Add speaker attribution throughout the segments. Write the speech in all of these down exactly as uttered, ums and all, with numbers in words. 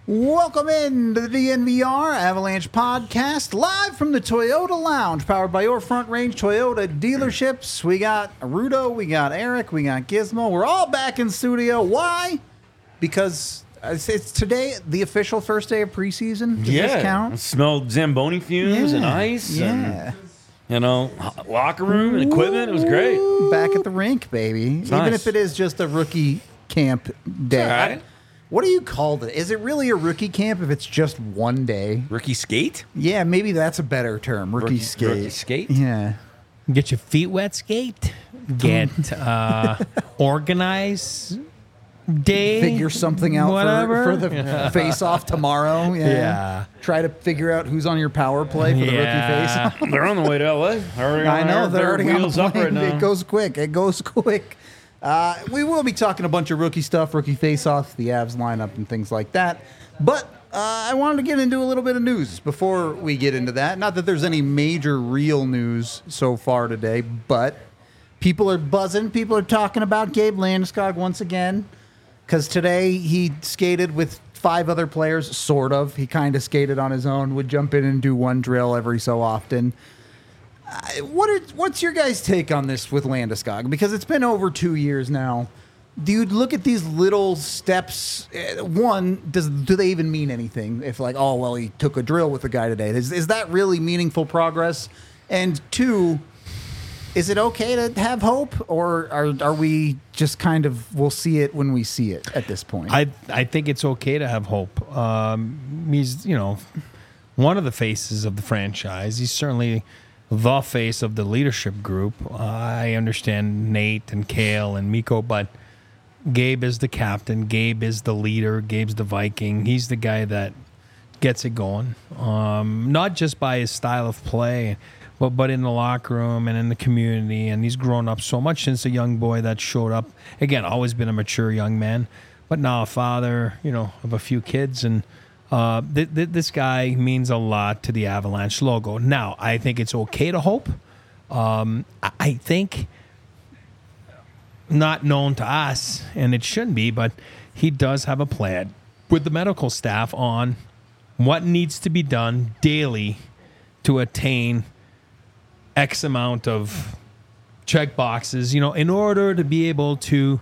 Speaker 1: Welcome in to the D N V R Avalanche Podcast, live from the Toyota Lounge, powered by your Front Range Toyota dealerships. We got Rudo, we got Eric, we got Gizmo. We're all back in studio. Why? Because it's, it's today the official first day of preseason. Does
Speaker 2: yeah,
Speaker 1: this count?
Speaker 2: It smelled Zamboni fumes
Speaker 1: yeah.
Speaker 2: and ice.
Speaker 1: Yeah.
Speaker 2: And, you know, locker room and equipment. It was great.
Speaker 1: Back at the rink, baby.
Speaker 2: It's
Speaker 1: Even
Speaker 2: nice.
Speaker 1: if it is just a rookie camp day.
Speaker 2: All right.
Speaker 1: What do you call it? Is it really a rookie camp if it's just one day?
Speaker 2: Rookie skate?
Speaker 1: Yeah, maybe that's a better term. Rookie,
Speaker 2: Rookie-
Speaker 1: skate.
Speaker 2: rookie skate?
Speaker 1: Yeah.
Speaker 3: Get your feet wet, skate. Get uh, organize day.
Speaker 1: Figure something out
Speaker 3: whatever.
Speaker 1: for, for the face-off tomorrow. Yeah.
Speaker 3: Yeah.
Speaker 1: Try to figure out who's on your power play for the
Speaker 3: Yeah.
Speaker 1: rookie face-off.
Speaker 2: They're on the way to L A. Already
Speaker 1: I
Speaker 2: on
Speaker 1: know.
Speaker 2: their-
Speaker 1: They're
Speaker 2: their
Speaker 1: already on the
Speaker 2: wheels up
Speaker 1: plane.
Speaker 2: right now.
Speaker 1: It goes quick. It goes quick. Uh, we will be talking a bunch of rookie stuff, rookie face-offs, the Avs lineup, and things like that. But uh, I wanted to get into a little bit of news before we get into that. Not that there's any major real news so far today, but people are buzzing. People are talking about Gabe Landeskog once again, because today he skated with five other players, sort of. He kind of skated on his own, would jump in and do one drill every so often. Uh, what are, what's your guys' take on this with Landeskog? Because it's been over two years now. Do you look at these little steps? uh, One, does do they even mean anything? If like, oh well, he took a drill with the guy today. Is is that really meaningful progress? And two, is it okay to have hope, or are are we just kind of we'll see it when we see it at this point?
Speaker 3: I I think it's okay to have hope. Um, he's you know one of the faces of the franchise. He's certainly the face of the leadership group. Uh, I understand Nate and Kale and Mikko, but Gabe is the captain. Gabe is the leader. Gabe's the Viking. He's the guy that gets it going, um, not just by his style of play, but but in the locker room and in the community. And he's grown up so much since a young boy that showed up. Again, always been a mature young man, but now a father, you know, of a few kids. And uh, th- th- this guy means a lot to the Avalanche logo. Now, I think it's okay to hope. Um, I-, I think not known to us, and it shouldn't be, but he does have a plan with the medical staff on what needs to be done daily to attain X amount of check boxes, you know, in order to be able to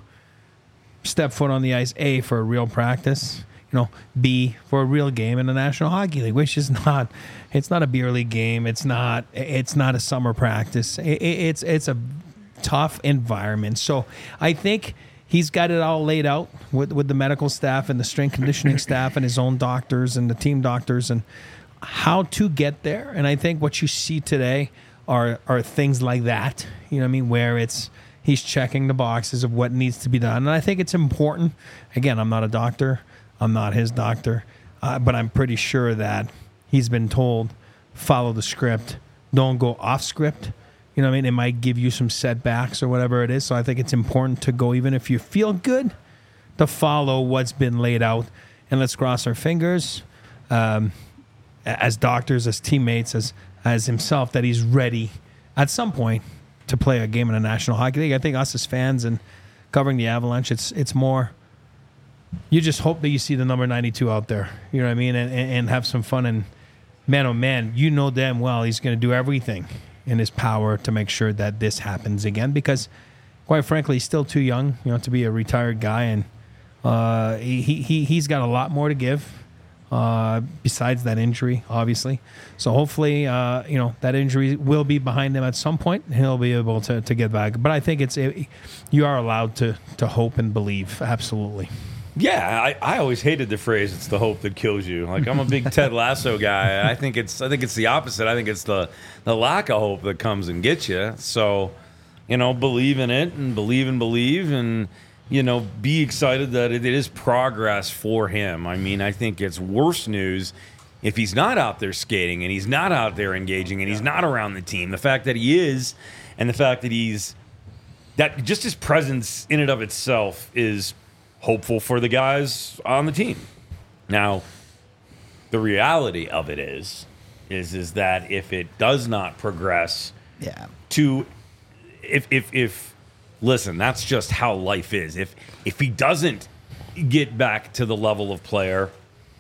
Speaker 3: step foot on the ice, A, for a real practice, you know, B, for a real game in the National Hockey League, which is not, it's not a beer league game. It's not, it's not a summer practice. It, it's, it's a tough environment. So I think he's got it all laid out with, with the medical staff and the strength conditioning staff and his own doctors and the team doctors and how to get there. And I think what you see today are are things like that, you know what I mean, where it's he's checking the boxes of what needs to be done. And I think it's important. Again, I'm not a doctor. I'm not his doctor. Uh, but I'm pretty sure that he's been told, follow the script. Don't go off script. You know what I mean? It might give you some setbacks or whatever it is. So I think it's important to go, even if you feel good, to follow what's been laid out. And let's cross our fingers um, as doctors, as teammates, as as himself, that he's ready at some point to play a game in the National Hockey League. I think us as fans and covering the Avalanche, it's it's more, you just hope that you see the number ninety-two out there. You know what I mean? And, and, and have some fun. And man, oh man, you know damn well he's going to do everything in his power to make sure that this happens again, because quite frankly, he's still too young, you know, to be a retired guy. And uh, he, he, he's got a lot more to give. Uh, besides that injury, obviously. So hopefully, uh, you know, that injury will be behind him at some point. And he'll be able to, to get back. But I think it's it, you are allowed to to hope and believe. Absolutely.
Speaker 2: Yeah, I, I always hated the phrase "it's the hope that kills you." Like, I'm a big Ted Lasso guy. I think it's I think it's the opposite. I think it's the the lack of hope that comes and gets you. So, you know, believe in it and believe and believe and, you know, be excited that it is progress for him. I mean, I think it's worse news if he's not out there skating and he's not out there engaging and he's not around the team. The fact that he is, and the fact that he's, that just his presence in and of itself is hopeful for the guys on the team. Now, the reality of it is, is, is that if it does not progress
Speaker 1: yeah.
Speaker 2: to, if, if, if, listen, that's just how life is. If if he doesn't get back to the level of player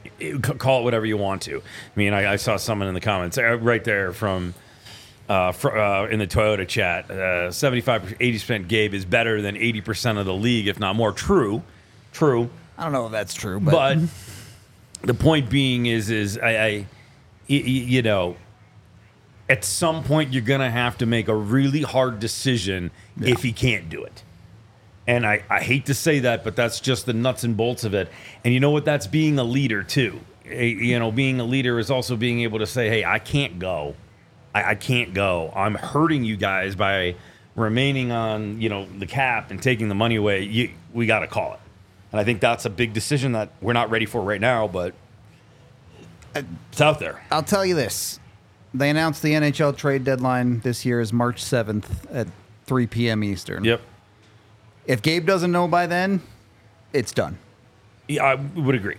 Speaker 2: call it whatever you want to. I mean, I, I saw someone in the comments uh, right there from uh, fr- uh, in the Toyota chat, uh, seventy-five, eighty percent Gabe is better than eighty percent of the league, if not more. True, true.
Speaker 1: I don't know if that's true, but,
Speaker 2: But the point being is, is I, I y- y- you know, at some point you're going to have to make a really hard decision
Speaker 1: Yeah.
Speaker 2: if he can't do it. And I, I hate to say that, but that's just the nuts and bolts of it. And you know what? That's being a leader, too. A- You know, being a leader is also being able to say, hey, I can't go. I, I can't go. I'm hurting you guys by remaining on, you know, the cap and taking the money away. You, we got to call it. And I think that's a big decision that we're not ready for right now, but it's out there.
Speaker 1: I'll tell you this. They announced the N H L trade deadline this year is March seventh at three p.m. Eastern.
Speaker 2: Yep.
Speaker 1: If Gabe doesn't know by then, it's done.
Speaker 2: Yeah, I would agree.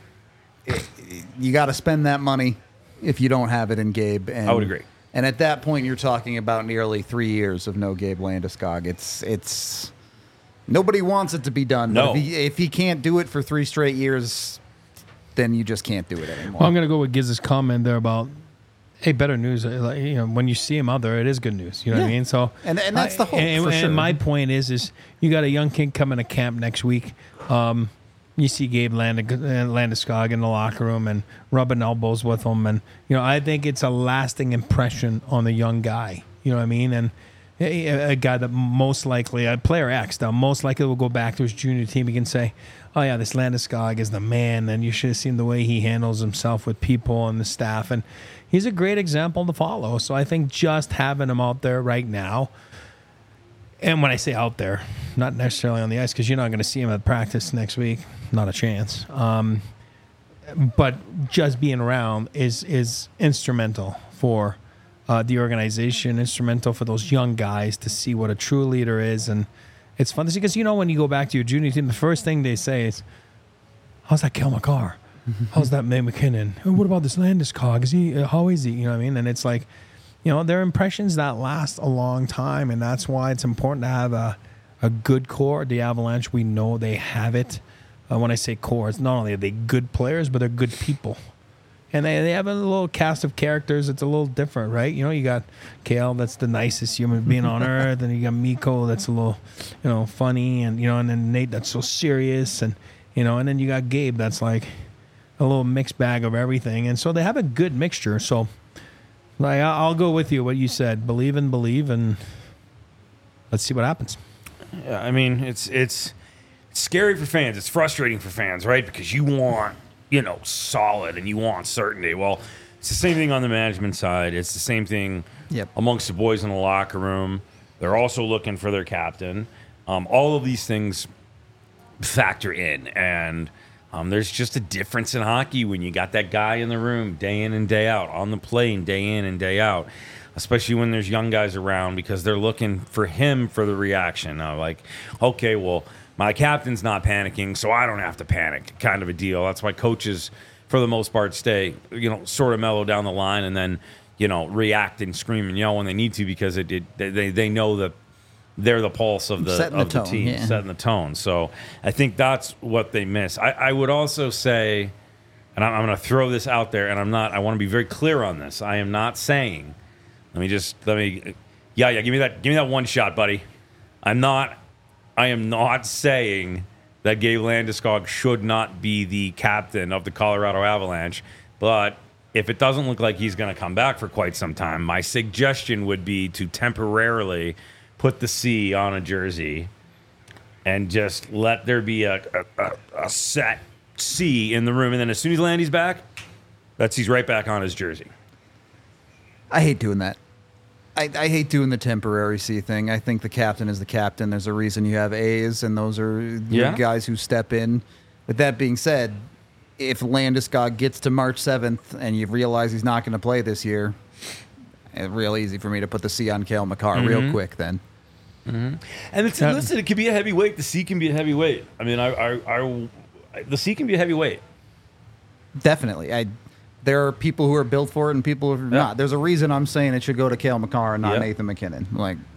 Speaker 1: You got to spend that money if you don't have it in Gabe. And,
Speaker 2: I would agree.
Speaker 1: And at that point, you're talking about nearly three years of no Gabe Landeskog. It's it's nobody wants it to be done.
Speaker 2: No.
Speaker 1: But if he, if he can't do it for three straight years, then you just can't do it anymore.
Speaker 3: Well, I'm going to go with Giz's comment there about, hey, better news. uh, Like, you know, when you see him out there, it is good news. You know what I
Speaker 1: Yeah.
Speaker 3: mean? So,
Speaker 1: And- and that's the hope,
Speaker 3: And,
Speaker 1: for
Speaker 3: and
Speaker 1: sure.
Speaker 3: my point is, is you got a young kid coming to camp next week. Um, you see Gabe Land- uh, Landeskog in the locker room and rubbing elbows with him, and you know, I think it's a lasting impression on the young guy. You know what I mean? And a, a guy that most likely, a player X, that most likely will go back to his junior team. He can say, oh yeah, this Landeskog is the man, and you should have seen the way he handles himself with people and the staff, and he's a great example to follow. So I think just having him out there right now, and when I say out there, not necessarily on the ice, because you're not going to see him at practice next week, not a chance. Um, but just being around is is instrumental for uh, the organization, instrumental for those young guys to see what a true leader is. And it's fun to see, because you know, when you go back to your junior team, the first thing they say is, how's that Kel McCarr? How's that May McKinnon? Oh, what about this Landeskog? Is he? Uh, how is he? You know what I mean? And it's like, you know, they're impressions that last a long time, and that's why it's important to have a a good core. The Avalanche, we know they have it. Uh, when I say core, it's not only are they good players, but they're good people. And they, they have a little cast of characters that's a little different, right? You know, you got Kale, that's the nicest human being on earth, and you got Mikko, that's a little, you know, funny, and you know, and then Nate, that's so serious, and you know, and then you got Gabe, that's like a little mixed bag of everything, and so they have a good mixture. So, like, I- I'll go with you what you said: believe and believe, and let's see what happens.
Speaker 2: Yeah, I mean, it's it's it's scary for fans. It's frustrating for fans, right? Because you want, you know, solid and you want certainty. Well, it's the same thing on the management side. It's the same thing
Speaker 1: Yep.
Speaker 2: amongst the boys in the locker room. They're also looking for their captain. Um, all of these things factor in, and um, there's just a difference in hockey when you got that guy in the room day in and day out, on the plane day in and day out, especially when there's young guys around, because they're looking for him for the reaction. Uh, like, okay, well, my captain's not panicking, so I don't have to panic, kind of a deal. That's why coaches, for the most part, stay, you know, sort of mellow down the line, and then, you know, react and scream and yell when they need to, because it, it they they know that they're the pulse of the
Speaker 1: Setting the
Speaker 2: of the
Speaker 1: tone,
Speaker 2: team,
Speaker 1: yeah.
Speaker 2: setting the tone. So I think that's what they miss. I, I would also say, and I'm, I'm going to throw this out there, and I'm not. I want to be very clear on this. I am not saying. Let me just let me. Yeah, yeah. Give me that. Give me that one shot, buddy. I'm not. I am not saying that Gabe Landeskog should not be the captain of the Colorado Avalanche, but if it doesn't look like he's going to come back for quite some time, my suggestion would be to temporarily put the C on a jersey and just let there be a, a, a, a set C in the room. And then as soon as Landy's back, that C's right back on his jersey.
Speaker 1: I hate doing that. I, I hate doing the temporary C thing. I think the captain is the captain. There's a reason you have A's, and those are your
Speaker 2: Yeah.
Speaker 1: guys who step in. With that being said, if Landeskog gets to March seventh and you realize he's not going to play this year, it's real easy for me to put the C on Cale Makar
Speaker 2: Mm-hmm.
Speaker 1: real quick then.
Speaker 2: And it's,
Speaker 3: Yeah.
Speaker 2: listen, it can be a heavyweight. The C can be a heavyweight. I mean, I, I, I, the C can be a heavyweight.
Speaker 1: Definitely. I. There are people who are built for it and people who are not. There's a reason I'm saying it should go to Cale Makar and not
Speaker 2: Yeah.
Speaker 1: Nathan McKinnon. Like,
Speaker 2: Great.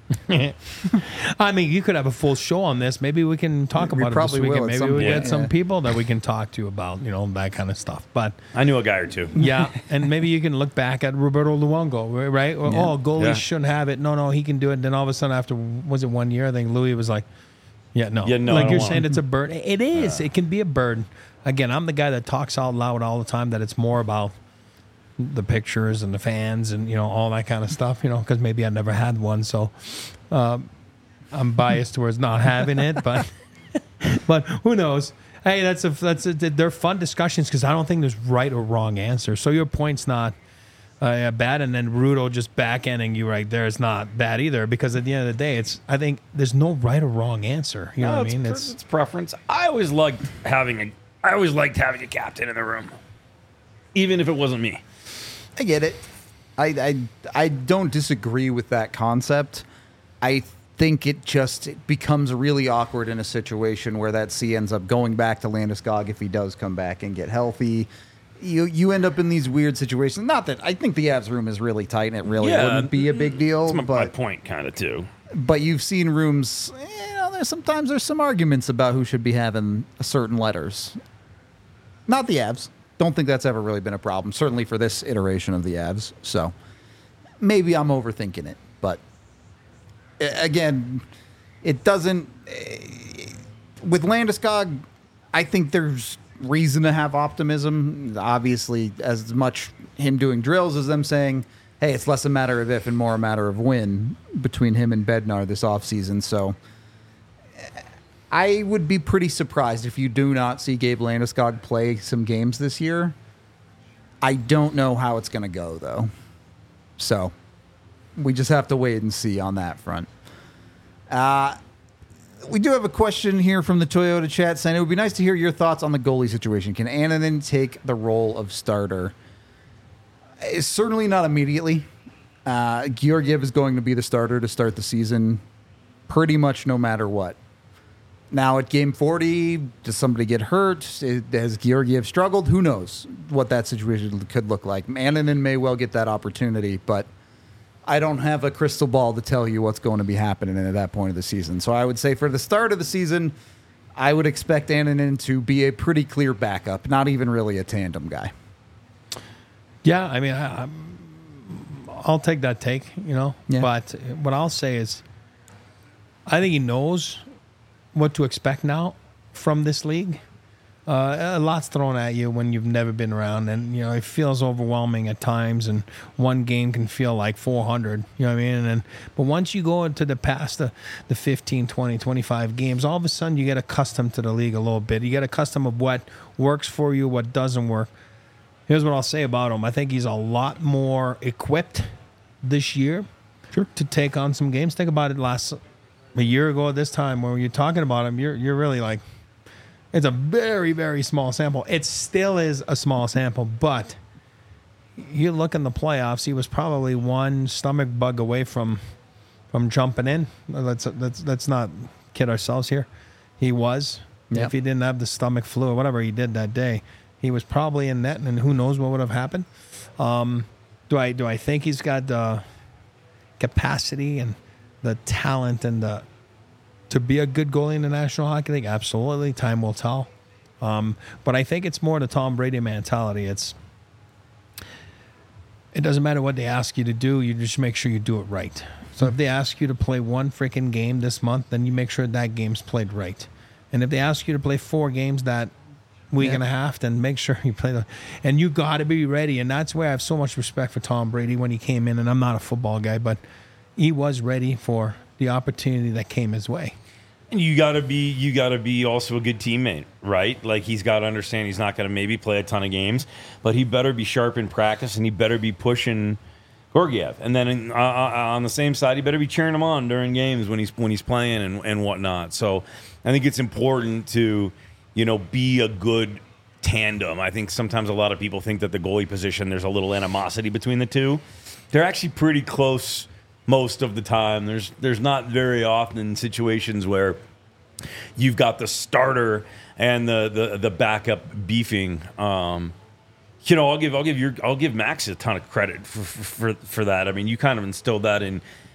Speaker 3: I mean, you could have a full show on this. Maybe we can talk
Speaker 1: We
Speaker 3: about it this
Speaker 1: probably will
Speaker 3: weekend.
Speaker 1: at
Speaker 3: Maybe
Speaker 1: some
Speaker 3: we
Speaker 1: point,
Speaker 3: get some
Speaker 1: yeah.
Speaker 3: people that we can talk to about, you know, that kind of stuff. But
Speaker 2: I knew a guy or two.
Speaker 3: yeah, and maybe you can look back at Roberto Luongo, right? Or,
Speaker 1: Yeah.
Speaker 3: Oh, goalies
Speaker 2: Yeah.
Speaker 3: shouldn't have it. No, no, he can do it. Then all of a sudden, after was it one year? I think Louis was like, "Yeah, no,
Speaker 2: Yeah, no, I
Speaker 3: like
Speaker 2: don't
Speaker 3: you're
Speaker 2: want
Speaker 3: saying,
Speaker 2: it.
Speaker 3: it's a burden. It is. It can be a burden. Again, I'm the guy that talks out loud all the time. That it's more about the pictures and the fans and you know all that kind of stuff. You know, because maybe I never had one, so um, I'm biased towards not having it. But but who knows? Hey, that's a that's a, they're fun discussions because I don't think there's right or wrong answer. So your point's not uh, bad, and then Rudo just back-ending you right there is not bad either because at the end of the day, it's I think there's no right or wrong answer. You know
Speaker 2: No,
Speaker 3: what I
Speaker 2: it's,
Speaker 3: mean?
Speaker 2: pre-
Speaker 3: It's
Speaker 2: it's preference. I always liked having a. I always liked having a captain in the room, even if it wasn't me.
Speaker 1: I get it. I, I I don't disagree with that concept. I think it just it becomes really awkward in a situation where that C ends up going back to Landeskog if he does come back and get healthy. You you end up in these weird situations. Not that I think the Avs room is really tight and it really
Speaker 2: Yeah,
Speaker 1: wouldn't be a big deal.
Speaker 2: That's my, my
Speaker 1: but
Speaker 2: point, kind of too.
Speaker 1: but you've seen rooms. You know, there's sometimes there's some arguments about who should be having certain letters. Not the Avs. Don't think that's ever really been a problem. Certainly for this iteration of the Avs. So maybe I'm overthinking it, but uh, again, it doesn't. Uh, with Landeskog, I think there's reason to have optimism. Obviously, as much him doing drills as them saying, "Hey, it's less a matter of if and more a matter of when" between him and Bednar this offseason. So I would be pretty surprised if you do not see Gabe Landeskog play some games this year. I don't know how it's going to go, though. So we just have to wait and see on that front. Uh, we do have a question here from the Toyota chat saying it would be nice to hear your thoughts on the goalie situation. Can Annunen take the role of starter? It's certainly not immediately. Uh, Georgiev is going to be the starter to start the season pretty much no matter what. Now, at game forty, does somebody get hurt? Has Georgiev struggled? Who knows what that situation could look like. Annunen may well get that opportunity, but I don't have a crystal ball to tell you what's going to be happening at that point of the season. So I would say for the start of the season, I would expect Annunen to be a pretty clear backup, not even really a tandem guy.
Speaker 3: yeah. I mean, I, I'm, I'll take that take. You know,
Speaker 1: Yeah.
Speaker 3: but what I'll say is, I think he knows what to expect now from this league. Uh, a lot's thrown at you when you've never been around, and you know it feels overwhelming at times. And one game can feel like four hundred. You know what I mean? And then, but once you go into the past the, the fifteen, twenty, twenty-five games, all of a sudden you get accustomed to the league a little bit. You get accustomed of what works for you, what doesn't work. Here's what I'll say about him: I think he's a lot more equipped this year sure. to take on some games. Think about it last. A year ago at this time, when you're talking about him, you're you're really like, it's a very, very small sample. It still is a small sample, but you look in the playoffs, he was probably one stomach bug away from from jumping in. Let's let's let's not kid ourselves here. He was.
Speaker 1: Yep.
Speaker 3: If he didn't have the stomach flu or whatever he did that day, he was probably in net, and who knows what would have happened. Um, do I do I think he's got the capacity and the talent and the to be a good goalie in the National Hockey League? Absolutely. Time will tell. Um, but I think it's more the Tom Brady mentality. It's it doesn't matter what they ask you to do. You just make sure you do it right. So if they ask you to play one freaking game this month, then you make sure that game's played right. And if they ask you to play four games that week
Speaker 1: Yeah.
Speaker 3: and a half, then make sure you play the. And you got to be ready. And that's where I have so much respect for Tom Brady when he came in. And I'm not a football guy, but he was ready for the opportunity that came his way.
Speaker 2: And you gotta be you gotta be also a good teammate, right? Like he's got to understand he's not gonna maybe play a ton of games, but he better be sharp in practice and he better be pushing Georgiev. And then in, uh, on the same side, he better be cheering him on during games when he's when he's playing and, and whatnot. So I think it's important to, you know, be a good tandem. I think sometimes a lot of people think that the goalie position there's a little animosity between the two. They're actually pretty close. Most of the time, there's there's not very often situations where you've got the starter and the the, the backup beefing. Um, you know, I'll give I'll give your I'll give Max a ton of credit for for, for that. I mean, you kind of instilled that in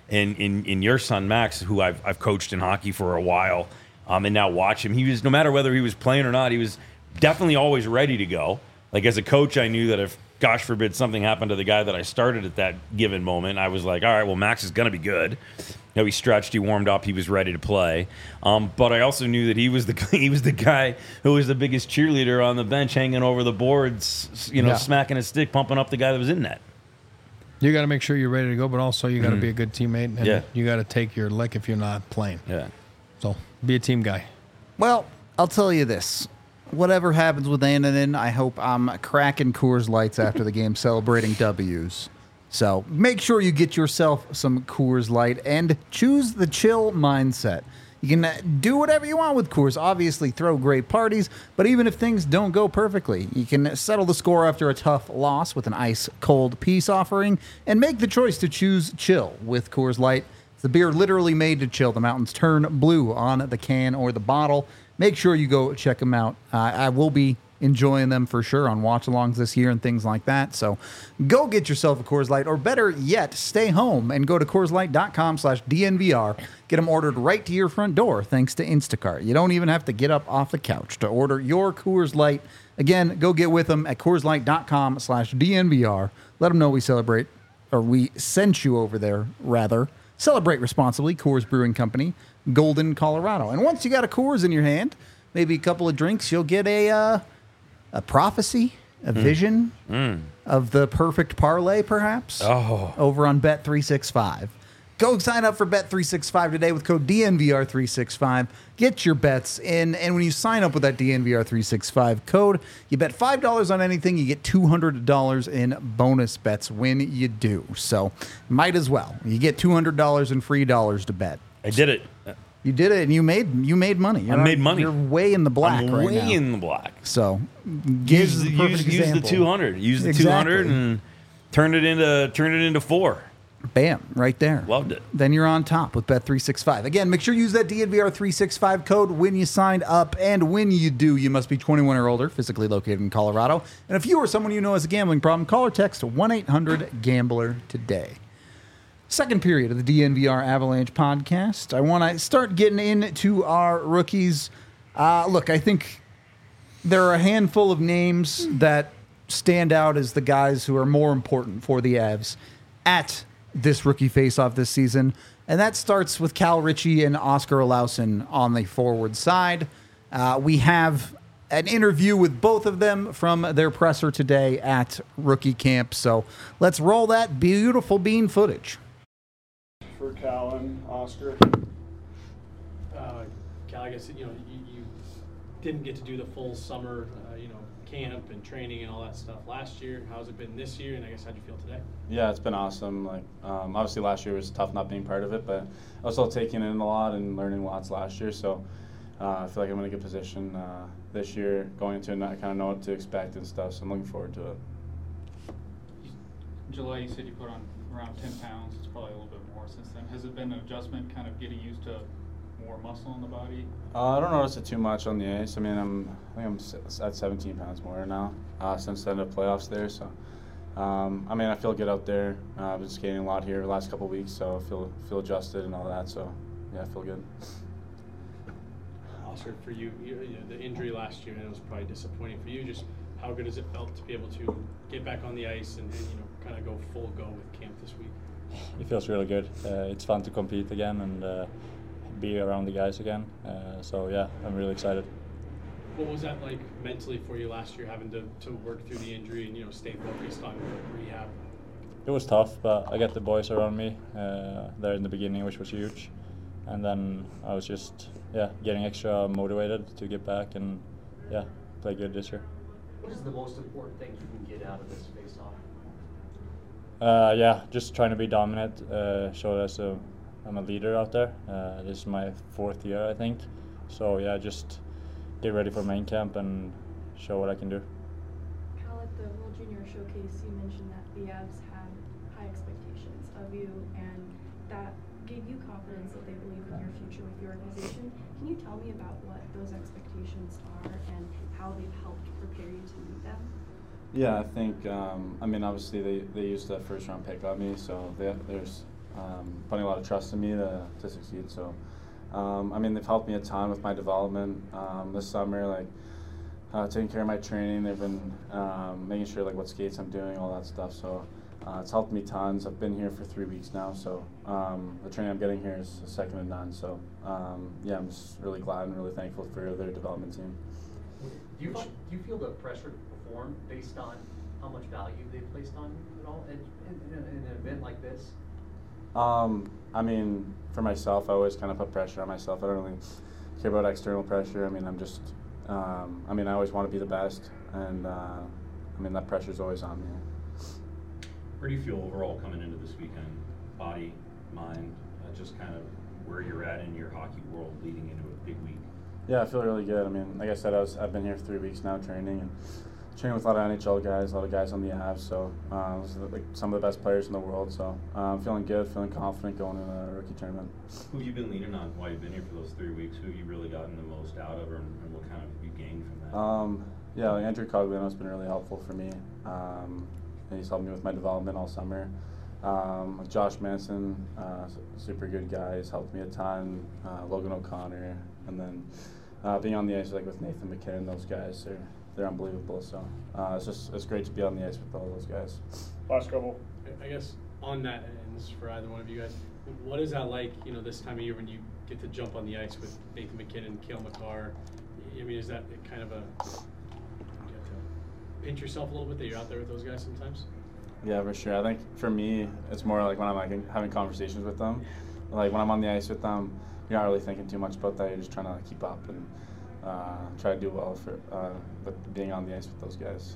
Speaker 2: in in, in your son Max, who I've I've coached in hockey for a while, um, and now watch him. He was, no matter whether he was playing or not, he was definitely always ready to go. Like, as a coach, I knew that if, gosh forbid, something happened to the guy that I started at that given moment, I was like, all right, well, Max is going to be good. You know, he stretched, he warmed up, he was ready to play. Um, but I also knew that he was the he was the guy who was the biggest cheerleader on the bench, hanging over the boards, you know,
Speaker 1: Yeah.
Speaker 2: smacking his stick, pumping up the guy that was in net.
Speaker 3: You got to make sure you're ready to go, but also you got to be a good teammate, and
Speaker 2: Yeah.
Speaker 3: you got to take your lick if you're not playing.
Speaker 2: Yeah.
Speaker 3: So be a team guy.
Speaker 1: Well, I'll tell you this. Whatever happens with Annanen, I hope I'm cracking Coors Lights after the game celebrating W's. So make sure you get yourself some Coors Light and choose the chill mindset. You can uh, do whatever you want with Coors. Obviously, throw great parties, but even if things don't go perfectly, you can settle the score after a tough loss with an ice-cold peace offering and make the choice to choose chill with Coors Light. It's the beer literally made to chill. The mountains turn blue on the can or the bottle. Make sure you go check them out. Uh, I will be enjoying them for sure on watch-alongs this year and things like that. So go get yourself a Coors Light, or better yet, stay home and go to Coors Light dot com slash D N V R. Get them ordered right to your front door thanks to Instacart. You don't even have to get up off the couch to order your Coors Light. Again, go get with them at Coors Light dot com slash D N V R. Let them know we celebrate, or we sent you over there, rather. Celebrate responsibly. Coors Brewing Company, Golden, Colorado. And once you got a Coors in your hand, maybe a couple of drinks, you'll get a uh, a prophecy, a vision of the perfect parlay, perhaps,
Speaker 2: Oh.
Speaker 1: over on Bet three sixty-five. Go sign up for Bet three sixty-five today with code D N V R three sixty-five. Get your bets in, and when you sign up with that D N V R three sixty-five code, you bet five dollars on anything, you get two hundred dollars in bonus bets when you do. So might as well. You get two hundred dollars in free dollars to bet.
Speaker 2: I did it.
Speaker 1: You did it, and you made you made money. You're
Speaker 2: I
Speaker 1: not-
Speaker 2: made money.
Speaker 1: You're way in the black
Speaker 2: I'm
Speaker 1: right
Speaker 2: way
Speaker 1: now.
Speaker 2: in the black.
Speaker 1: So give
Speaker 2: Use
Speaker 1: the
Speaker 2: the,
Speaker 1: perfect
Speaker 2: use, use the
Speaker 1: example.
Speaker 2: two hundred. Use the
Speaker 1: Exactly.
Speaker 2: two hundred and turn it into turn it into four.
Speaker 1: Bam, right there.
Speaker 2: Loved it.
Speaker 1: Then you're on top with Bet three sixty-five. Again, make sure you use that D N V R three sixty-five code when you sign up. And when you do, you must be twenty-one or older, physically located in Colorado. And if you or someone you know has a gambling problem, call or text one eight hundred gambler today. Second period of the D N V R Avalanche podcast. I want to start getting into our rookies. Uh, look, I think there are a handful of names that stand out as the guys who are more important for the Avs at this rookie faceoff this season. And that starts with Cal Ritchie and Oscar Olausson on the forward side. Uh, we have an interview with both of them from their presser today at rookie camp. So let's roll that beautiful bean footage.
Speaker 4: For Cal and Oscar.
Speaker 5: Uh, Cal, I guess you know you, you didn't get to do the full summer, uh, you know, camp and training and all that stuff last year. How's it been this year? And I guess how'd you feel today?
Speaker 4: Yeah, it's been awesome. Like, um, obviously last year was tough not being part of it, but I was still taking in a lot and learning lots last year. So uh, I feel like I'm in a good position uh, this year, going into it, I kind of know what to expect and stuff. So I'm looking forward to it.
Speaker 6: In July, you said you put on around ten pounds. It's probably a little bit more since then. Has it been an adjustment, kind of getting used to more muscle in the body?
Speaker 4: Uh, I don't notice it too much on the ice. I mean, I'm I think I'm s- at seventeen pounds more now uh, since the end of playoffs there. So, um, I mean, I feel good out there. Uh, I've been skating a lot here the last couple of weeks, so I feel feel adjusted and all that. So, yeah, I feel good.
Speaker 5: Oscar, for you, you, you know, the injury last year, and it was probably disappointing for you. Just how good has it felt to be able to get back on the ice and, and you know, kind of go full go with camp this week?
Speaker 7: It feels really good. Uh, it's fun to compete again and uh, be around the guys again. Uh, so yeah, I'm really excited.
Speaker 5: What was that like mentally for you last year, having to, to work through the injury and you know stay focused on rehab?
Speaker 7: It was tough, but I got the boys around me uh, there in the beginning, which was huge. And then I was just yeah getting extra motivated to get back and yeah play good this year.
Speaker 8: What is the most important thing you can get out of this face-off?
Speaker 7: Uh, yeah, just trying to be dominant, uh, show that a, I'm a leader out there. Uh, this is my fourth year, I think. So yeah, just get ready for main camp and show what I can do.
Speaker 9: Cal, at the World Junior Showcase, you mentioned that the Avs had high expectations of you, and that gave you confidence that they believe in your future with the organization. Can you tell me about what those expectations are and how they've helped prepare you to meet them?
Speaker 4: Yeah, I think, um, I mean, obviously they, they used the first round pick on me, so they, there's um, putting a lot of trust in me to, to succeed. So, um, I mean, they've helped me a ton with my development um, this summer, like uh, taking care of my training. They've been um, making sure like what skates I'm doing, all that stuff. So uh, it's helped me tons. I've been here for three weeks now, so um, the training I'm getting here is second to none. So um, yeah, I'm just really glad and really thankful for their development team.
Speaker 8: Do you, do you feel the pressure to perform based on how much value they've placed on you at all in, in, in, in an event like this?
Speaker 4: Um, I mean, for myself, I always kind of put pressure on myself. I don't really care about external pressure. I mean, I'm just, um, I mean, I always want to be the best, and uh, I mean, that pressure's always on me.
Speaker 10: Where do you feel overall coming into this weekend? Body, mind, uh, just kind of where you're at in your hockey world leading into a big week?
Speaker 4: Yeah, I feel really good. I mean, like I said, I was, I've been here for three weeks now training, and training with a lot of N H L guys, a lot of guys on the Avs, so uh, those are like some of the best players in the world. So uh, I'm feeling good, feeling confident going into the rookie tournament.
Speaker 10: Who have you been leaning on while you've been here for those three weeks? Who have you really gotten the most out of, and, and what kind of have you gained from that?
Speaker 4: Um, yeah, like Andrew Cogliano's been really helpful for me. Um, and he's helped me with my development all summer. Um, Josh Manson, uh, super good guy, he's helped me a ton. Uh, Logan O'Connor, and then uh, being on the ice like with Nathan McKinnon, those guys are they're unbelievable. So uh, it's just it's great to be on the ice with all those guys.
Speaker 5: Last couple. I guess on that, and this is for either one of you guys, what is that like? You know, this time of year when you get to jump on the ice with Nathan McKinnon, Cale Makar. I mean, is that kind of a you have to pinch yourself a little bit that you're out there with those guys sometimes?
Speaker 4: Yeah, for sure. I think for me, it's more like when I'm like having conversations with them. Like when I'm on the ice with them, you're not really thinking too much about that. You're just trying to like, keep up and uh, try to do well for uh, with being on the ice with those guys.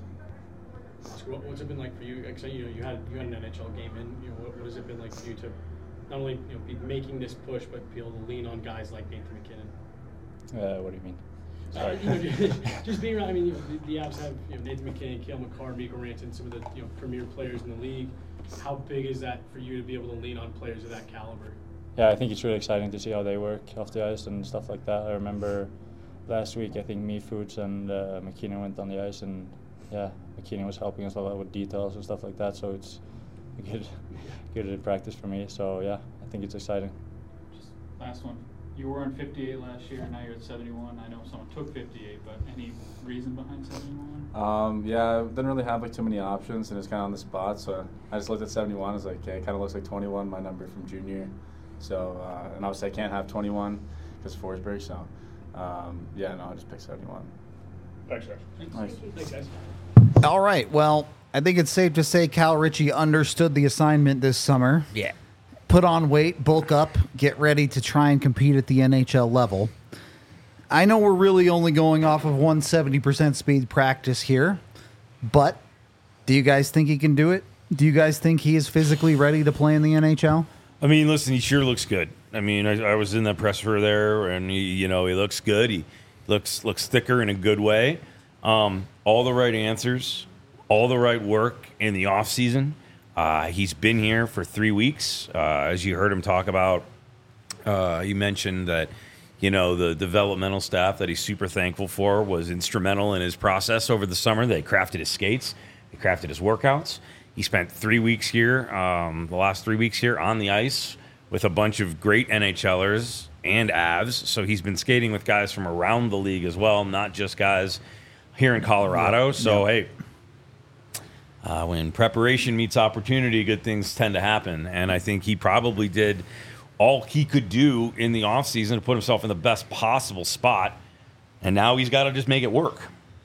Speaker 5: So what, what's it been like for you? Like, so, you know, you had you had an N H L game in. You know, what, what has it been like for you to not only you know be making this push, but be able to lean on guys like Nathan McKinnon?
Speaker 7: Uh, what do you mean?
Speaker 5: Uh, you know, just being around. I mean, you know, the, the Avs have you know, Nathan McKinnon, Cale Makar, Mikko Rantanen, some of the you know premier players in the league. How big is that for you to be able to lean on players of that caliber?
Speaker 7: Yeah, I think it's really exciting to see how they work off the ice and stuff like that. I remember last week, I think me, Fuchs, and uh, McKinnon went on the ice, and yeah, McKinnon was helping us a lot with details and stuff like that. So it's a good, good practice for me. So yeah, I think it's exciting.
Speaker 6: Just last one. You were on fifty-eight last year, now you're at seventy-one. I know someone took fifty-eight, but any reason behind seventy-one?
Speaker 4: Um, yeah, I didn't really have like too many options, and it's kind of on the spot. So I just looked at seventy-one. I was like, okay, it kind of looks like twenty-one, my number from junior. So uh, and obviously I can't have twenty-one because Forsberg. So um, yeah, no, I just picked seventy-one.
Speaker 5: Thanks, guys.
Speaker 4: Nice.
Speaker 5: Thanks, guys.
Speaker 1: All right. Well, I think it's safe to say Cal Ritchie understood the assignment this summer.
Speaker 2: Yeah.
Speaker 1: Put on weight, bulk up, get ready to try and compete at the N H L level. I know we're really only going off of one hundred seventy percent speed practice here, but do you guys think he can do it? Do you guys think he is physically ready to play in the N H L?
Speaker 2: I mean, listen, he sure looks good. I mean, I, I was in the presser there, and he, you know, he looks good. He looks looks thicker in a good way. Um, all the right answers, all the right work in the off season. Uh, he's been here for three weeks. Uh, as you heard him talk about, uh, he mentioned that, you know, the developmental staff that he's super thankful for was instrumental in his process over the summer. They crafted his skates. They crafted his workouts. He spent three weeks here, um, the last three weeks here on the ice with a bunch of great NHLers and Avs. So he's been skating with guys from around the league as well, not just guys here in Colorado. So, hey, Uh, when preparation meets opportunity, good things tend to happen. And I think he probably did all he could do in the offseason to put himself in the best possible spot. And now he's got to just make it work.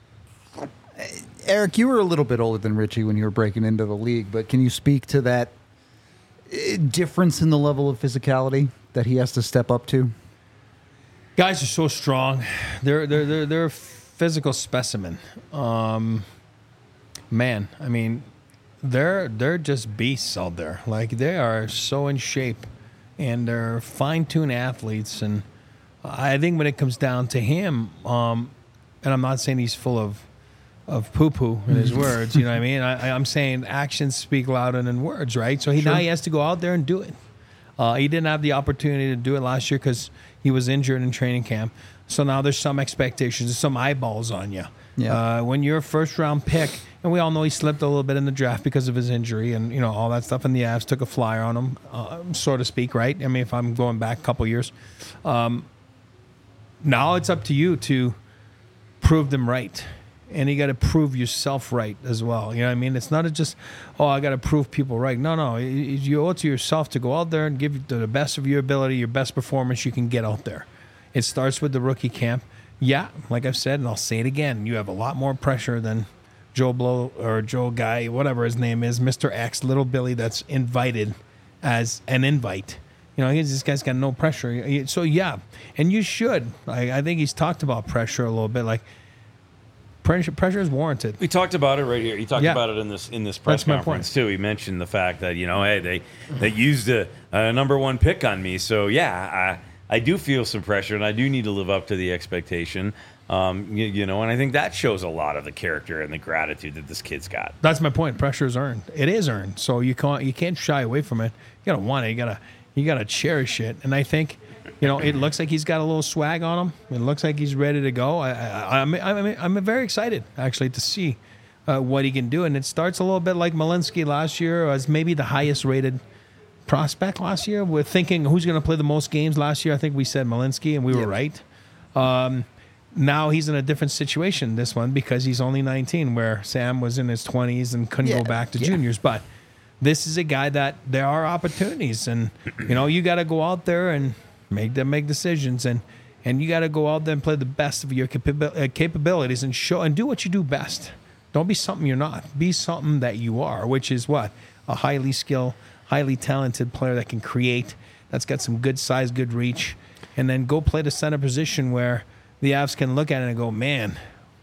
Speaker 1: Eric, you were a little bit older than Richie when you were breaking into the league, but can you speak to that uh, difference in the level of physicality that he has to step up to?
Speaker 3: Guys are so strong. They're they're they're they're a physical specimen. Um, man, I mean, they're they're just beasts out there. Like, they are so in shape, and they're fine-tuned athletes. And I think when it comes down to him, um, and I'm not saying he's full of of poo-poo in his words, you know what I mean? I, I'm saying actions speak louder than words, right? So he
Speaker 1: Sure.
Speaker 3: now he has to go out there and do it. Uh, he didn't have the opportunity to do it last year because he was injured in training camp. So now there's some expectations, some eyeballs on you.
Speaker 1: Yeah.
Speaker 3: Uh, when you're a first-round pick And we all know he slipped a little bit in the draft because of his injury and, you know, all that stuff. And the Avs took a flyer on him, uh, so to speak, right? I mean, if I'm going back a couple years. Um, now it's up to you to prove them right. And you got to prove yourself right as well. You know what I mean? It's not just, oh, I got to prove people right. No, no. You owe it to yourself to go out there and give the best of your ability, your best performance you can get out there. It starts with the rookie camp. Yeah, like I've said, and I'll say it again, you have a lot more pressure than Joe Blow or Joe Guy, whatever his name is, Mister X, Little Billy, that's invited as an invite. You know, he's, this guy's got no pressure. So, yeah, and you should. I, I think he's talked about pressure a little bit. Like, pressure, pressure is warranted.
Speaker 2: We talked about it right here. He talked
Speaker 3: Yeah.
Speaker 2: about it in this in this press
Speaker 3: That's my
Speaker 2: conference too. He mentioned the fact that, you know, hey, they they used a, a number one pick on me. So yeah, I I do feel some pressure, and I do need to live up to the expectation. Um, you, you know, and I think that shows a lot of the character and the gratitude that this kid's got.
Speaker 3: That's my point. Pressure is earned. It is earned. So you can't you can't shy away from it. You gotta want it. You gotta you gotta cherish it. And I think, you know, it looks like he's got a little swag on him. It looks like he's ready to go. I, I, I'm I'm I'm very excited actually to see uh, what he can do. And it starts a little bit like Malinsky last year, as maybe the highest rated prospect last year. We're thinking who's going to play the most games last year. I think we said Malinsky, and we were
Speaker 1: Yep.
Speaker 3: right. Um, now he's in a different situation, this one, because he's only nineteen, where Sam was in his twenties and couldn't
Speaker 1: Yeah,
Speaker 3: go back to
Speaker 1: yeah.
Speaker 3: juniors. But this is a guy that there are opportunities, and you know you got to go out there and make them make decisions, and and you got to go out there and play the best of your capabil- uh, capabilities and show and do what you do best. Don't be something you're not. Be something that you are, which is what? A highly skilled, highly talented player that can create, that's got some good size, good reach, and then go play the center position where the Avs can look at it and go, man,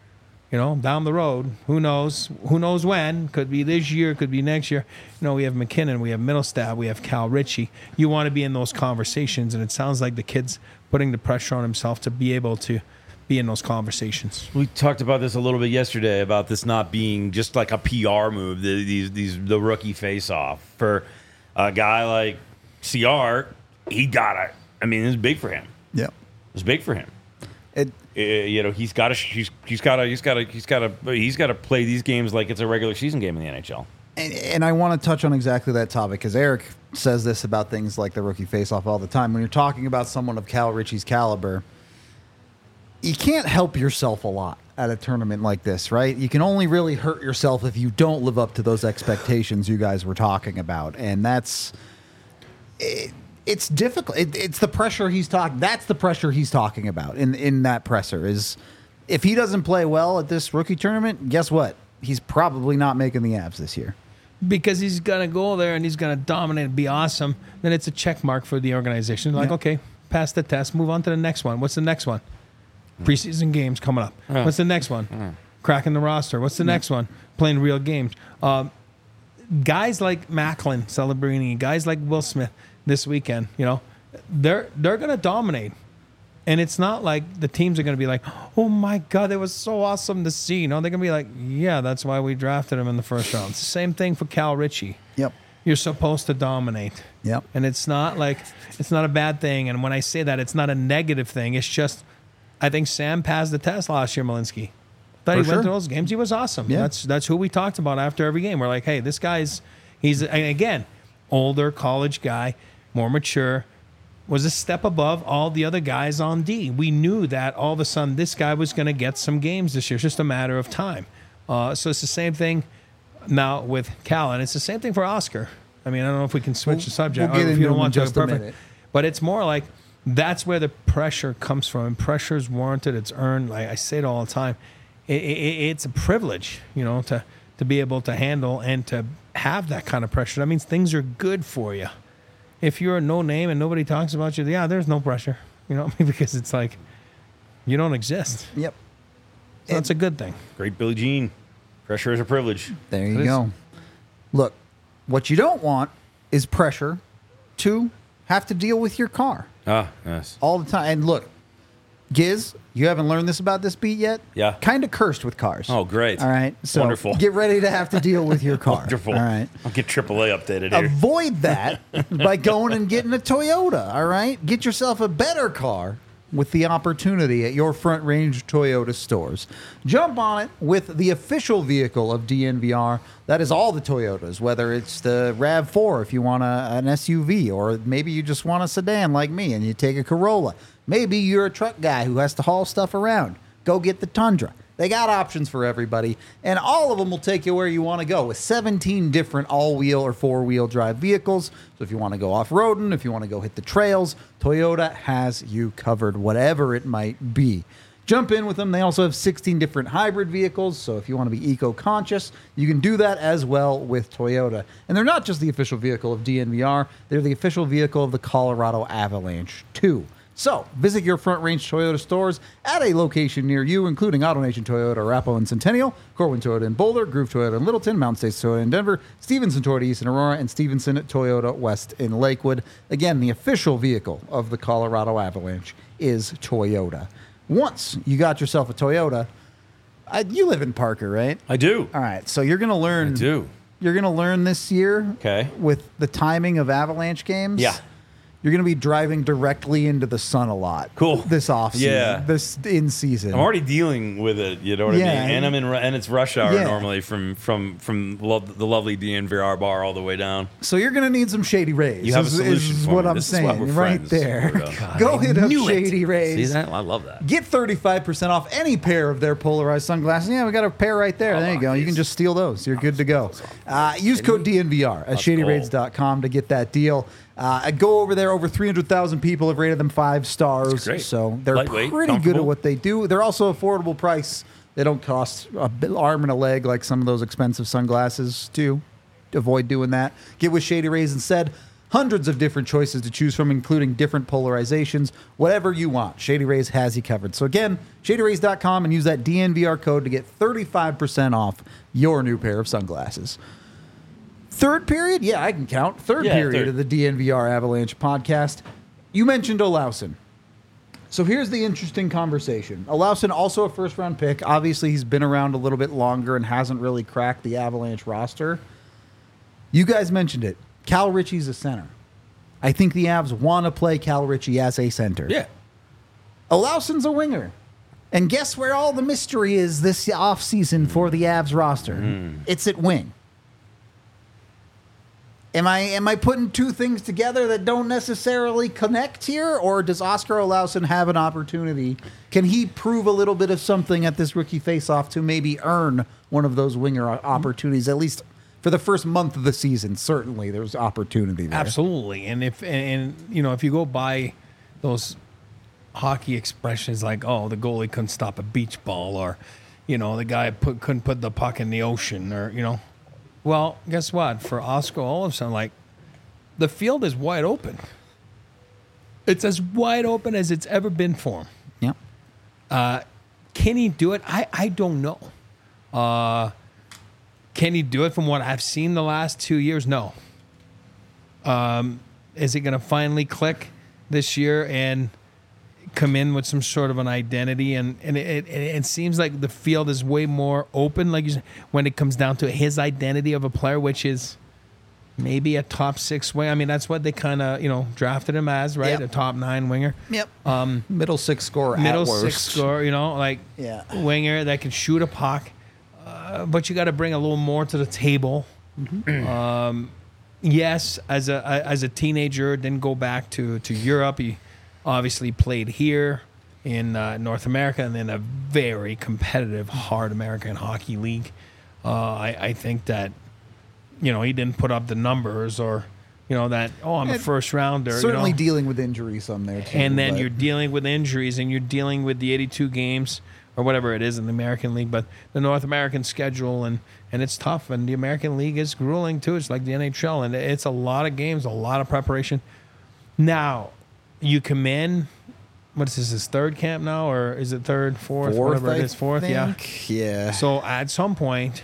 Speaker 3: you know, down the road, who knows? Who knows when? Could be this year, could be next year. You know, we have McKinnon, we have Middlestat, we have Cal Ritchie. You want to be in those conversations, and it sounds like the kid's putting the pressure on himself to be able to be in those conversations.
Speaker 2: We talked about this a little bit yesterday about this not being just like a P R move, the, these these the rookie face off for a guy like C R. He got it. I mean, it's big for him.
Speaker 1: Yeah.
Speaker 2: It's big for him.
Speaker 1: It,
Speaker 2: Uh, you know, he's got to he's he's got to he's got to he's got to he's got to play these games like it's a regular season game in the N H L.
Speaker 1: And, and I want to touch on exactly that topic because Eric says this about things like the rookie face-off all the time. When you're talking about someone of Cal Ritchie's caliber, you can't help yourself a lot at a tournament like this, right? You can only really hurt yourself if you don't live up to those expectations you guys were talking about. And that's... It, it's difficult. It, it's the pressure he's talking... That's the pressure he's talking about in, in that presser is if he doesn't play well at this rookie tournament, guess what? He's probably not making the Avs this year.
Speaker 3: Because he's going to go there and he's going to dominate and be awesome, then it's a check mark for the organization. Like,
Speaker 1: Yeah.
Speaker 3: okay, pass the test, move on to the next one. What's the next one? Preseason games coming up.
Speaker 2: Yeah.
Speaker 3: What's the next one?
Speaker 2: Yeah.
Speaker 3: Cracking the roster. What's the next one? Playing real games. Um, guys like Macklin, Celebrini, guys like Will Smith this weekend, you know, they're they're going to dominate. And it's not like the teams are going to be like, oh, my God, it was so awesome to see. No, they're going to be like, yeah, that's why we drafted him in the first round. It's the same thing for Cal Ritchie.
Speaker 1: Yep.
Speaker 3: You're supposed to dominate.
Speaker 1: Yep.
Speaker 3: And it's not like, it's not a bad thing. And when I say that, it's not a negative thing. It's just, I think Sam passed the test last year, Malinsky. Thought
Speaker 1: For
Speaker 3: he
Speaker 1: sure.
Speaker 3: went to those games. He was awesome.
Speaker 1: Yeah.
Speaker 3: That's that's who we talked about after every game. We're like, hey, this guy's, he's, and again, older college guy, more mature, was a step above all the other guys on D. We knew that all of a sudden this guy was going to get some games this year. It's just a matter of time. Uh, so it's the same thing now with Cal, and it's the same thing for Oscar. I mean, I don't know if we can switch
Speaker 1: We'll-
Speaker 3: the subject.
Speaker 1: we'll get
Speaker 3: or if
Speaker 1: into
Speaker 3: you don't
Speaker 1: them in
Speaker 3: want to,
Speaker 1: just a
Speaker 3: perfect.
Speaker 1: minute.
Speaker 3: But it's more like that's where the pressure comes from. And pressure is warranted. It's earned. Like I say it all the time. It, it, it's a privilege, you know, to to be able to handle and to have that kind of pressure. That means things are good for you. If you're a no name and nobody talks about you, yeah, there's no pressure, you know, because it's like you don't exist.
Speaker 1: Yep.
Speaker 3: So that's a good thing.
Speaker 2: Great Billie Jean. Pressure is a privilege.
Speaker 1: There you
Speaker 3: It is.
Speaker 1: go. Look, what you don't want is pressure to have to deal with your car
Speaker 2: Ah, yes.
Speaker 1: all the time. And look, Giz, you haven't learned this about this beat yet?
Speaker 2: Yeah.
Speaker 1: Kind of cursed with cars.
Speaker 2: Oh, great.
Speaker 1: All right. So
Speaker 2: Wonderful.
Speaker 1: get ready to have to deal with your car.
Speaker 2: Wonderful.
Speaker 1: All right.
Speaker 2: I'll get triple A updated here.
Speaker 1: Avoid that by going and getting a Toyota. All right. Get yourself a better car with the opportunity at your Front Range Toyota stores. Jump on it with the official vehicle of D N V R. That is all the Toyotas, whether it's the RAV four if you want a, an S U V, or maybe you just want a sedan like me and you take a Corolla. Maybe you're a truck guy who has to haul stuff around. Go get the Tundra. They got options for everybody, and all of them will take you where you want to go with seventeen different all-wheel or four-wheel drive vehicles. So if you want to go off-roading, if you want to go hit the trails, Toyota has you covered, whatever it might be. Jump in with them. They also have sixteen different hybrid vehicles, so if you want to be eco-conscious, you can do that as well with Toyota. And they're not just the official vehicle of D N V R, they're the official vehicle of the Colorado Avalanche, too. So, visit your Front Range Toyota stores at a location near you, including AutoNation Toyota, Arapahoe and Centennial, Corwin Toyota in Boulder, Groove Toyota in Littleton, Mountain States Toyota in Denver, Stevenson Toyota East in Aurora, and Stevenson Toyota West in Lakewood. Again, the official vehicle of the Colorado Avalanche is Toyota. Once you got yourself a Toyota, I, you live in Parker, right?
Speaker 2: I do.
Speaker 1: All right, so you're going to learn.
Speaker 2: I do.
Speaker 1: You're going to learn this year
Speaker 2: Okay.
Speaker 1: with the timing of Avalanche games.
Speaker 2: Yeah.
Speaker 1: You're going to be driving directly into the sun a lot.
Speaker 2: Cool.
Speaker 1: This off season.
Speaker 2: Yeah.
Speaker 1: This in season.
Speaker 2: I'm already dealing with it, you know what
Speaker 1: Yeah.
Speaker 2: I mean? And I'm in, ru- and it's rush hour
Speaker 1: Yeah.
Speaker 2: normally from from from lo- the lovely D N V R bar all the way down.
Speaker 1: So you're going to need some Shady Rays.
Speaker 2: You have a
Speaker 1: is,
Speaker 2: solution
Speaker 1: is
Speaker 2: for
Speaker 1: what
Speaker 2: me.
Speaker 1: I'm
Speaker 2: This is why
Speaker 1: saying
Speaker 2: we're
Speaker 1: right
Speaker 2: friends.
Speaker 1: there.
Speaker 2: God,
Speaker 1: Go hit up
Speaker 3: knew it.
Speaker 1: Shady Rays.
Speaker 2: See that? I love that.
Speaker 1: Get thirty-five percent off any pair of their polarized sunglasses. Yeah, we got a pair right there.
Speaker 2: Oh,
Speaker 1: there you go. You can
Speaker 2: these.
Speaker 1: just steal those. You're good to go. Uh, use code D N V R at shady raids dot com to get that deal. Uh, go over there. Over three hundred thousand people have rated them five stars.
Speaker 2: That's great.
Speaker 1: So they're
Speaker 2: Lightweight,
Speaker 1: pretty good at
Speaker 2: comfortable.
Speaker 1: what they do. They're also affordable price. They don't cost a bit- arm and a leg like some of those expensive sunglasses do. Avoid doing that. Get with Shady Rays instead. Hundreds of different choices to choose from, including different polarizations. Whatever you want, Shady Rays has you covered. So again, shady rays dot com and use that D N V R code to get thirty-five percent off your new pair of sunglasses. Third period? Yeah, I can count. Third
Speaker 2: Yeah,
Speaker 1: period
Speaker 2: third.
Speaker 1: of the D N V R Avalanche podcast. You mentioned Olausen. So here's the interesting conversation. Olausen, also a first-round pick. Obviously, he's been around a little bit longer and hasn't really cracked the Avalanche roster. You guys mentioned it. Cal Ritchie's a center. I think the Avs want to play Cal Ritchie as a center.
Speaker 2: Yeah.
Speaker 1: Olausen's a winger. And guess where all the mystery is this offseason for the Avs roster? It's at wing. Am I am I putting two things together that don't necessarily connect here, or does Oscar Olausen have an opportunity? Can he prove a little bit of something at this rookie face-off to maybe earn one of those winger opportunities, at least for the first month of the season? Certainly, there's opportunity there.
Speaker 3: Absolutely. And if and, and you know, if you go by those hockey expressions like, oh, the goalie couldn't stop a beach ball, or, you know, the guy put, couldn't put the puck in the ocean, or, you know. Well, guess what? For Oscar Olofsson, like, the field is wide open. It's as wide open as it's ever been for him.
Speaker 1: Yep.
Speaker 3: Uh, can he do it? I, I don't know. Uh, can he do it from what I've seen the last two years? No. Um, is it going to finally click this year and come in with some sort of an identity? And, and it, it, it seems like the field is way more open, like you said, when it comes down to his identity of a player, which is maybe a top six winger. I mean, that's what they kind of, you know, drafted him as, right?
Speaker 1: Yep.
Speaker 3: A top nine winger.
Speaker 1: Yep.
Speaker 3: Um,
Speaker 1: middle six score
Speaker 3: middle
Speaker 1: at worst.
Speaker 3: six score, you know, like
Speaker 1: Yeah.
Speaker 3: winger that can shoot a puck. Uh, but you got to bring a little more to the table. Um, yes, as a as a teenager, didn't go back to, to Europe. He obviously played here in uh, North America, and then a very competitive, hard American Hockey League. Uh, I, I think that, you know, he didn't put up the numbers, or, you know, that, oh, I'm a
Speaker 1: And
Speaker 3: first rounder.
Speaker 1: Certainly
Speaker 3: you know?
Speaker 1: dealing with injuries some there, too.
Speaker 3: And then
Speaker 1: but-
Speaker 3: you're dealing with injuries, and you're dealing with the eighty-two games or whatever it is in the American League, but the North American schedule, and, and it's tough. And the American League is grueling too. It's like the N H L, and it's a lot of games, a lot of preparation. Now, you come in, what is this, his third camp now, or is it third, fourth,
Speaker 1: Fourth,
Speaker 3: whatever
Speaker 1: I
Speaker 3: it is, fourth,
Speaker 1: think.
Speaker 3: yeah.
Speaker 1: Yeah.
Speaker 3: So at some point,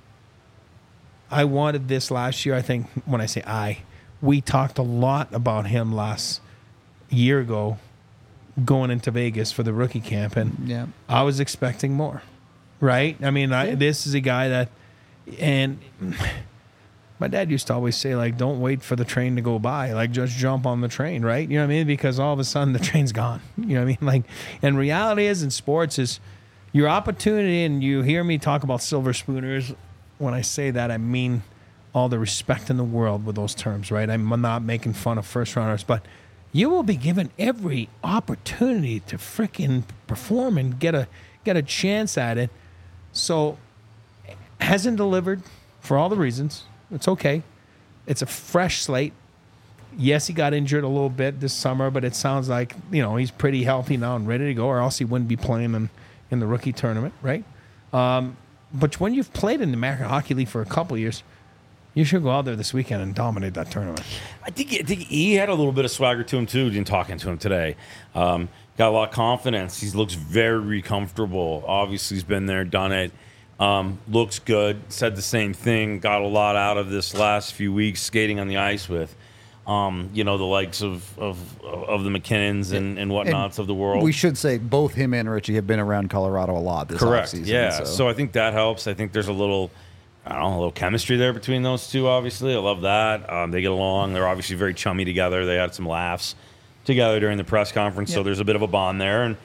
Speaker 3: I wanted this last year. I think when I say I, we talked a lot about him last year ago going into Vegas for the rookie camp, and
Speaker 1: Yeah.
Speaker 3: I was expecting more, right? I mean, I, this is a guy that, and My dad used to always say, like, don't wait for the train to go by. Like, just jump on the train, right? You know what I mean? Because all of a sudden the train's gone. You know what I mean? Like, and reality is in sports is your opportunity, and you hear me talk about silver spooners. When I say that, I mean all the respect in the world with those terms, right? I'm not making fun of first rounders, but you will be given every opportunity to freaking perform and get a get a chance at it. So, hasn't delivered for all the reasons. It's okay. It's a fresh slate. Yes, he got injured a little bit this summer, but it sounds like, you know, he's pretty healthy now and ready to go, or else he wouldn't be playing in, in the rookie tournament, right? Um, but when you've played in the American Hockey League for a couple of years, you should go out there this weekend and dominate that tournament.
Speaker 2: I think, I think he had a little bit of swagger to him, too, in talking to him today. Um, got a lot of confidence. He looks very comfortable. Obviously, he's been there, done it. Um, looks good. Said the same thing. Got a lot out of this last few weeks skating on the ice with, um, you know, the likes of of, of the McKinnons and, and whatnots
Speaker 1: And
Speaker 2: of the world.
Speaker 1: We should say both him and Richie have been around Colorado a lot this
Speaker 2: Correct.
Speaker 1: offseason.
Speaker 2: Yeah.
Speaker 1: So.
Speaker 2: so I think that helps. I think there's a little, I don't know, a little chemistry there between those two. Obviously, I love that. Um, they get along. They're obviously very chummy together. They had some laughs together during the press conference.
Speaker 1: Yep.
Speaker 2: So there's a bit of a bond there, and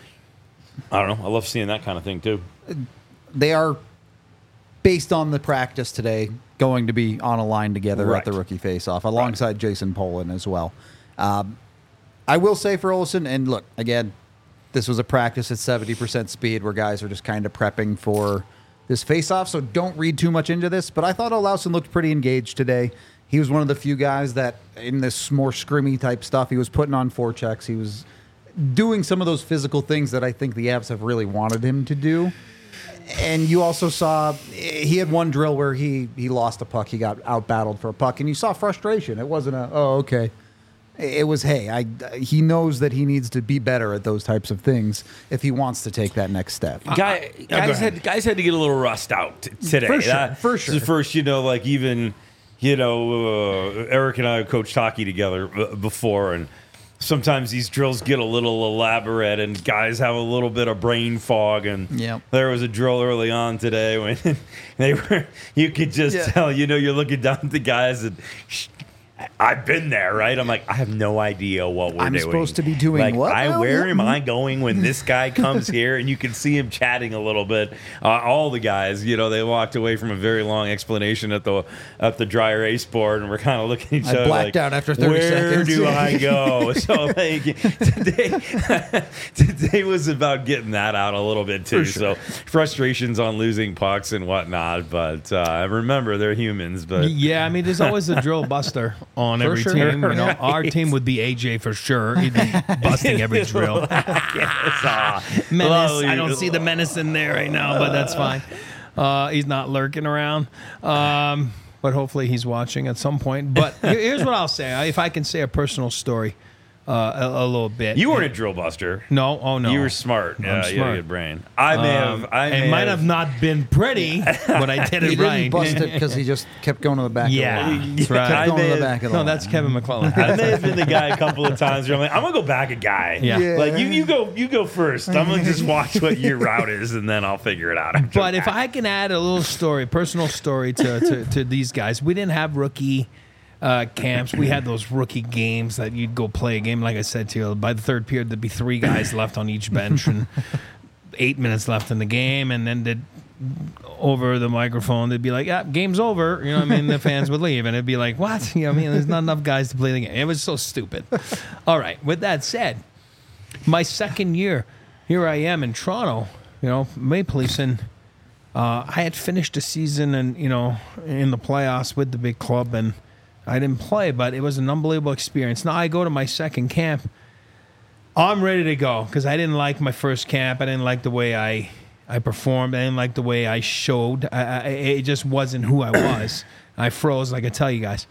Speaker 2: I don't know. I love seeing that kind of thing too.
Speaker 1: They are, based on the practice today, going to be on a line together
Speaker 2: Right.
Speaker 1: at the rookie face-off, alongside Jason Polin as well. Um, I will say for Olsen, and look, again, this was a practice at seventy percent speed where guys are just kind of prepping for this face-off, so don't read too much into this, but I thought Olausson looked pretty engaged today. He was one of the few guys that, in this more scrimmy type stuff, he was putting on forechecks. He was doing some of those physical things that I think the Avs have really wanted him to do. And you also saw he had one drill where he he lost a puck. He got out-battled for a puck, and you saw frustration. It wasn't a, oh, okay. It was, hey, I, he knows that he needs to be better at those types of things if he wants to take that next step.
Speaker 2: Guy,
Speaker 3: go
Speaker 2: guys
Speaker 3: ahead.
Speaker 2: had guys had to get a little rust out t- today.
Speaker 1: For sure,
Speaker 2: That-
Speaker 1: for
Speaker 2: this is
Speaker 1: sure.
Speaker 2: the first, you know, like even, you know, uh, Eric and I have coached hockey together uh, before, and sometimes these drills get a little elaborate, and guys have a little bit of brain fog. And
Speaker 1: Yep.
Speaker 2: there was a drill early on today when they were, you could just
Speaker 1: Yeah.
Speaker 2: tell, you know, you're looking down at the guys and. Sh- I've been there, right? I'm like, I have no idea what we're
Speaker 1: I'm
Speaker 2: doing.
Speaker 1: supposed to be doing
Speaker 2: like,
Speaker 1: what
Speaker 2: I,
Speaker 1: now?
Speaker 2: where
Speaker 1: Yeah.
Speaker 2: am I going when this guy comes here? And you can see him chatting a little bit. Uh, all the guys, you know, they walked away from a very long explanation at the at the dryer ace board, and we're kind of looking at each
Speaker 1: I
Speaker 2: other
Speaker 1: blacked
Speaker 2: like,
Speaker 1: out after thirty
Speaker 2: where
Speaker 1: seconds.
Speaker 2: do I go? So like today, today was about getting that out a little bit too. So frustrations on losing pucks and whatnot, but uh, remember they're humans. But
Speaker 3: Yeah, I mean, there's always a drill buster on
Speaker 1: For
Speaker 3: every
Speaker 1: sure.
Speaker 3: team. You know, our team would be A J for sure. He'd be busting every drill.
Speaker 2: Ah,
Speaker 3: Menace.
Speaker 2: lovely.
Speaker 3: I don't see the menace in there right now, but that's fine. Uh, he's not lurking around. Um, but hopefully he's watching at some point. But here- here's what I'll say. If I can say a personal story uh, a, a little bit.
Speaker 2: You weren't a drill buster.
Speaker 3: No, oh no.
Speaker 2: You were smart.
Speaker 3: I'm
Speaker 2: Yeah, you had a
Speaker 3: smart.
Speaker 2: good brain. I may
Speaker 3: Um,
Speaker 2: have. I
Speaker 3: it
Speaker 2: may
Speaker 3: might have not been pretty, but I did
Speaker 1: He
Speaker 3: it
Speaker 1: didn't
Speaker 3: right.
Speaker 1: bust it because he just kept going to the back
Speaker 3: Yeah,
Speaker 1: of the line.
Speaker 3: that's right.
Speaker 1: Kept
Speaker 2: I
Speaker 1: going
Speaker 2: may
Speaker 1: to the
Speaker 2: have-
Speaker 1: back of the
Speaker 3: No,
Speaker 1: line.
Speaker 3: that's Kevin McClellan.
Speaker 2: I may have been the guy a couple of times where I'm like, I'm gonna go back a guy.
Speaker 3: Yeah.
Speaker 1: Yeah.
Speaker 2: Like you, you go, you go first. I'm gonna just watch what your route is, and then I'll figure it out. after
Speaker 3: But if
Speaker 2: that.
Speaker 3: I can add a little story, personal story to, to, to these guys, we didn't have rookie uh, camps. We had those rookie games that you'd go play a game. Like I said to you, by the third period, there'd be three guys left on each bench and eight minutes left in the game. And then they'd, over the microphone, they'd be like, yeah, game's over. You know what I mean? The fans would leave. And it'd be like, what? You know what I mean? There's not enough guys to play the game. It was so stupid. All right. With that said, my second year, here I am in Toronto, you know, Maple Leafs, and uh, I had finished a season and, you know, in the playoffs with the big club, and I didn't play, but it was an unbelievable experience. Now I go to my second camp. I'm ready to go because I didn't like my first camp. I didn't like the way I, I performed. I didn't like the way I showed. I, I, it just wasn't who I was. I froze, like I tell you guys.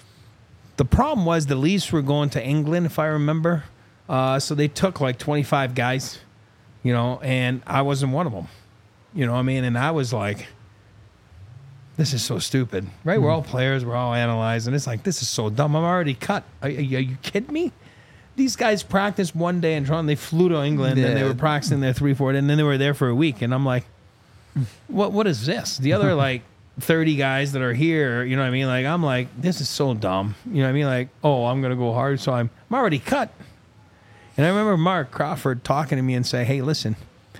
Speaker 3: The problem was the Leafs were going to England, if I remember. Uh, so they took like twenty-five guys, you know, and I wasn't one of them. You know what I mean? And I was like, this is so stupid, right? We're all players. We're all analyzing. It's like, this is so dumb. I'm already cut. Are, are you are you kidding me? These guys practiced one day in Toronto. They flew to England, and they
Speaker 1: Yeah.
Speaker 3: were practicing there three, four, and then they were there for a week. And I'm like, what? What is this? The other, like, thirty guys that are here, you know what I mean? Like, I'm like, this is so dumb. You know what I mean? Like, oh, I'm going to go hard, so I'm, I'm already cut. And I remember Mark Crawford talking to me and say, hey, listen,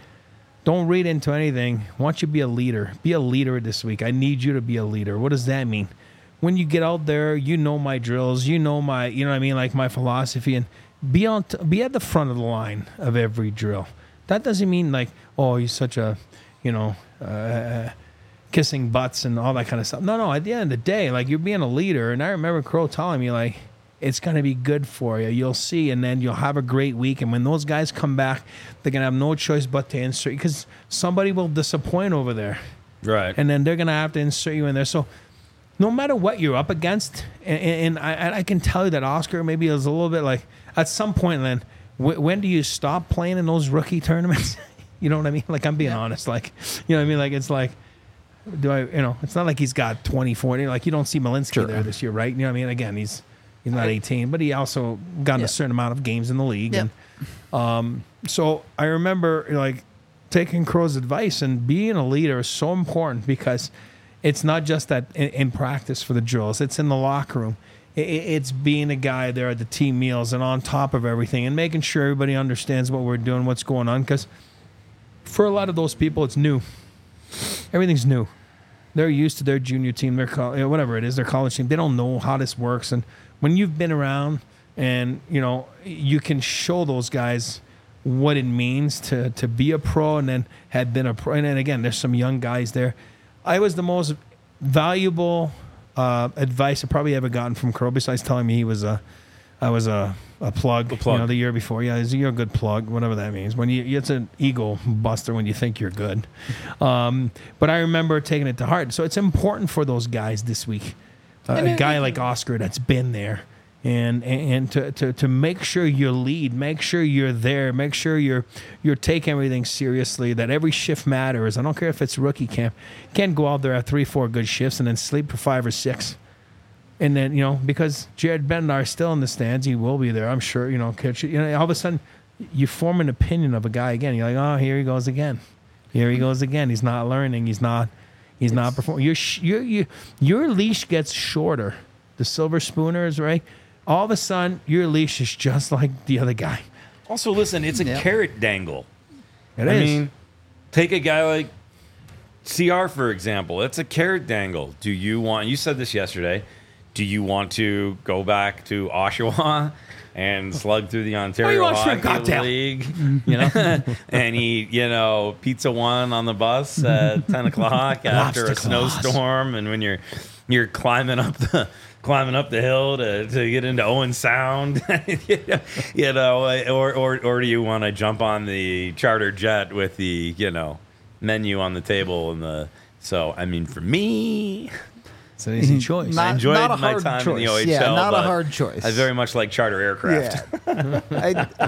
Speaker 3: don't read into anything. I want you to be a leader. Be a leader this week. I need you to be a leader. What does that mean? When you get out there, you know my drills, you know my, you know what I mean, like my philosophy, and be on, t- be at the front of the line of every drill. That doesn't mean like, oh, you're such a, you know, uh, kissing butts and all that kind of stuff. No, no. At the end of the day, like you're being a leader, and I remember Crow telling me like, it's going to be good for you. You'll see, and then you'll have a great week. And when those guys come back, they're going to have no choice but to insert you because somebody will disappoint over there.
Speaker 2: Right.
Speaker 3: And then they're going to have to insert you in there. So no matter what you're up against, and, and I, I can tell you that Oscar maybe was a little bit like, at some point, then, wh- when do you stop playing in those rookie tournaments? You know what I mean? Like, I'm being yeah. honest. Like, you know what I mean? Like, it's like, do I, you know, it's not like he's got twenty, forty. Like, you don't see Malinsky sure. there this year, right? You know what I mean? Again, he's he's not eighteen, but he also got yeah. a certain amount of games in the league. Yeah. And um, so I remember, like, taking Crow's advice, and being a leader is so important because it's not just that in, in practice for the drills. It's in the locker room. It, it's being a guy there at the team meals and on top of everything and making sure everybody understands what we're doing, what's going on. Because for a lot of those people, it's new. Everything's new. They're used to their junior team, their co- whatever it is, their college team. They don't know how this works. And when you've been around and, you know, you can show those guys what it means to, to be a pro and then had been a pro. And then again, there's some young guys there. I was the most valuable uh, advice I probably ever gotten from Crow, besides telling me he was a, I was a, a plug, a plug, you know, the year before. Yeah, you're a good plug, whatever that means. When you, it's an ego buster when you think you're good. Um, but I remember taking it to heart. So it's important for those guys this week. Uh, a guy like Oscar that's been there, and and to, to to make sure you lead, make sure you're there, make sure you're you're taking everything seriously. That every shift matters. I don't care if it's rookie camp. You can't go out there at three, four good shifts and then sleep for five or six. And then, you know, because Jared Bednar is still in the stands, he will be there, I'm sure. You know, coach, you know, all of a sudden, you form an opinion of a guy again. You're like, oh, here he goes again. Here he goes again. He's not learning. He's not. He's it's, not performing. Your your your your leash gets shorter. The silver spooners, right? All of a sudden, your leash is just like the other guy.
Speaker 2: Also, listen, it's a yeah. carrot dangle.
Speaker 3: It
Speaker 2: I
Speaker 3: is.
Speaker 2: mean, take a guy like C R, for example. It's a carrot dangle. Do you want? You said this yesterday. Do you want to go back to Oshawa and slug through the Ontario
Speaker 3: oh,
Speaker 2: Hockey League, you know, and eat, you know, pizza one on the bus at ten o'clock after a snowstorm, and when you're you're climbing up the climbing up the hill to, to get into Owen Sound, you know, or or or do you want to jump on the charter jet with the, you know, menu on the table and the so I mean for me.
Speaker 3: It's an easy choice.
Speaker 2: Not, I enjoyed
Speaker 1: not a
Speaker 2: my
Speaker 1: hard
Speaker 2: time
Speaker 1: choice.
Speaker 2: in the O H L.
Speaker 1: Yeah, not a
Speaker 2: but
Speaker 1: hard choice.
Speaker 2: I very much like charter aircraft.
Speaker 1: Yeah. I,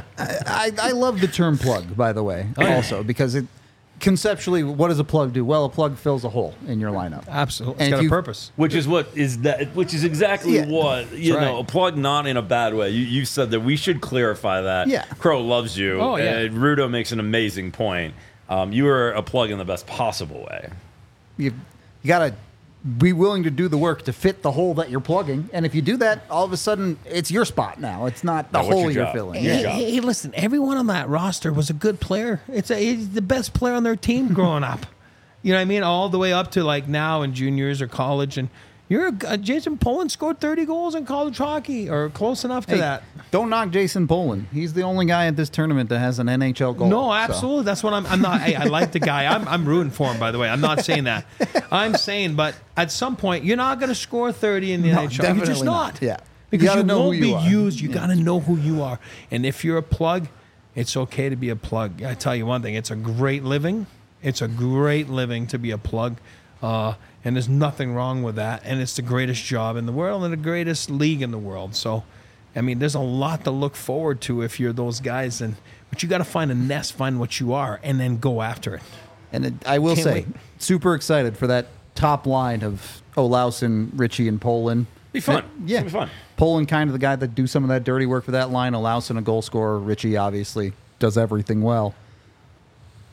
Speaker 1: I, I love the term plug, by the way,
Speaker 3: Oh, yeah.
Speaker 1: also, because it conceptually, what does a plug do? Well, a plug fills a hole in your lineup.
Speaker 3: Absolutely.
Speaker 1: And
Speaker 3: It's got
Speaker 1: if
Speaker 3: a
Speaker 1: you-
Speaker 3: purpose.
Speaker 2: Which is what is that? Which is exactly
Speaker 1: Yeah.
Speaker 2: what you
Speaker 3: That's
Speaker 2: know.
Speaker 3: right.
Speaker 2: A plug, not in a bad way. You you said that we should clarify that.
Speaker 1: Yeah.
Speaker 2: Crow loves you.
Speaker 3: Oh, yeah.
Speaker 2: And Rudo makes an amazing point. Um, you are a plug in the best possible way.
Speaker 1: You, you got to be willing to do the work to fit the hole that you're plugging. And if you do that, all of a sudden, it's your spot now. It's not the
Speaker 2: Now, what's
Speaker 1: hole
Speaker 2: your
Speaker 1: you're
Speaker 2: job?
Speaker 1: filling.
Speaker 2: Your
Speaker 3: Hey,
Speaker 2: job.
Speaker 3: hey, hey, listen, everyone on that roster was a good player. It's a, he's the best player on their team growing up. You know what I mean? All the way up to like now in juniors or college. And you're a, uh, Jason Poland scored thirty goals in college hockey or close enough to
Speaker 1: Hey,
Speaker 3: that.
Speaker 1: don't knock Jason Poland. He's the only guy at this tournament that has an N H L goal.
Speaker 3: No,
Speaker 1: so.
Speaker 3: absolutely. That's what I'm. I'm not. Hey, I like the guy. I'm. I'm rooting for him. By the way, I'm not saying that. I'm saying, but at some point, you're not going to score thirty in the
Speaker 1: No,
Speaker 3: N H L. You're just
Speaker 1: definitely
Speaker 3: not.
Speaker 1: not. Yeah.
Speaker 3: because
Speaker 1: You gotta
Speaker 3: you,
Speaker 1: know
Speaker 3: won't
Speaker 1: who
Speaker 3: be
Speaker 1: you are.
Speaker 3: used. You
Speaker 1: Yeah.
Speaker 3: got to know who you are. And if you're a plug, it's okay to be a plug. I tell you one thing: it's a great living. It's a great living to be a plug. Uh, and there's nothing wrong with that. And it's the greatest job in the world and the greatest league in the world. So, I mean, there's a lot to look forward to if you're those guys. And but you got to find a nest, find what you are, and then go after it.
Speaker 1: And it, I will
Speaker 3: Can't
Speaker 1: say,
Speaker 3: wait.
Speaker 1: super excited for that top line of Olausen, Richie, and Poland.
Speaker 2: Be fun.
Speaker 1: Yeah.
Speaker 2: It'll be fun.
Speaker 1: Poland kind of the guy that do some of that dirty work for that line. Olausen, a goal scorer. Richie obviously does everything well.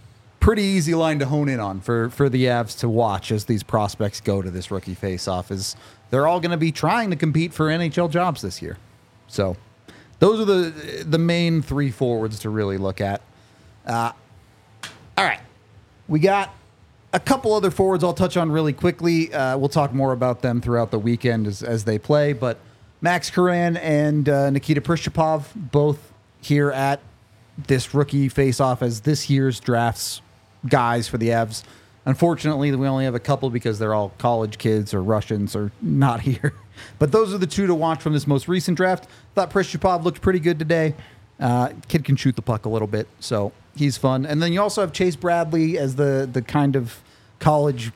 Speaker 1: pretty easy line to hone in on for, for the Avs to watch as these prospects go to this rookie face-off is they're all going to be trying to compete for N H L jobs this year. So those are the the main three forwards to really look at. Uh, all right. We got a couple other forwards I'll touch on really quickly. Uh, we'll talk more about them throughout the weekend as, as they play. But Max Karan and uh, Nikita Prishchapov both here at this rookie face-off as this year's drafts guys for the Avs. Unfortunately, we only have a couple because they're all college kids or Russians or not here. But those are the two to watch from this most recent draft. Thought Prishchapov looked pretty good today. Uh, kid can shoot the puck a little bit, so he's fun. And then you also have Chase Bradley as the the kind of college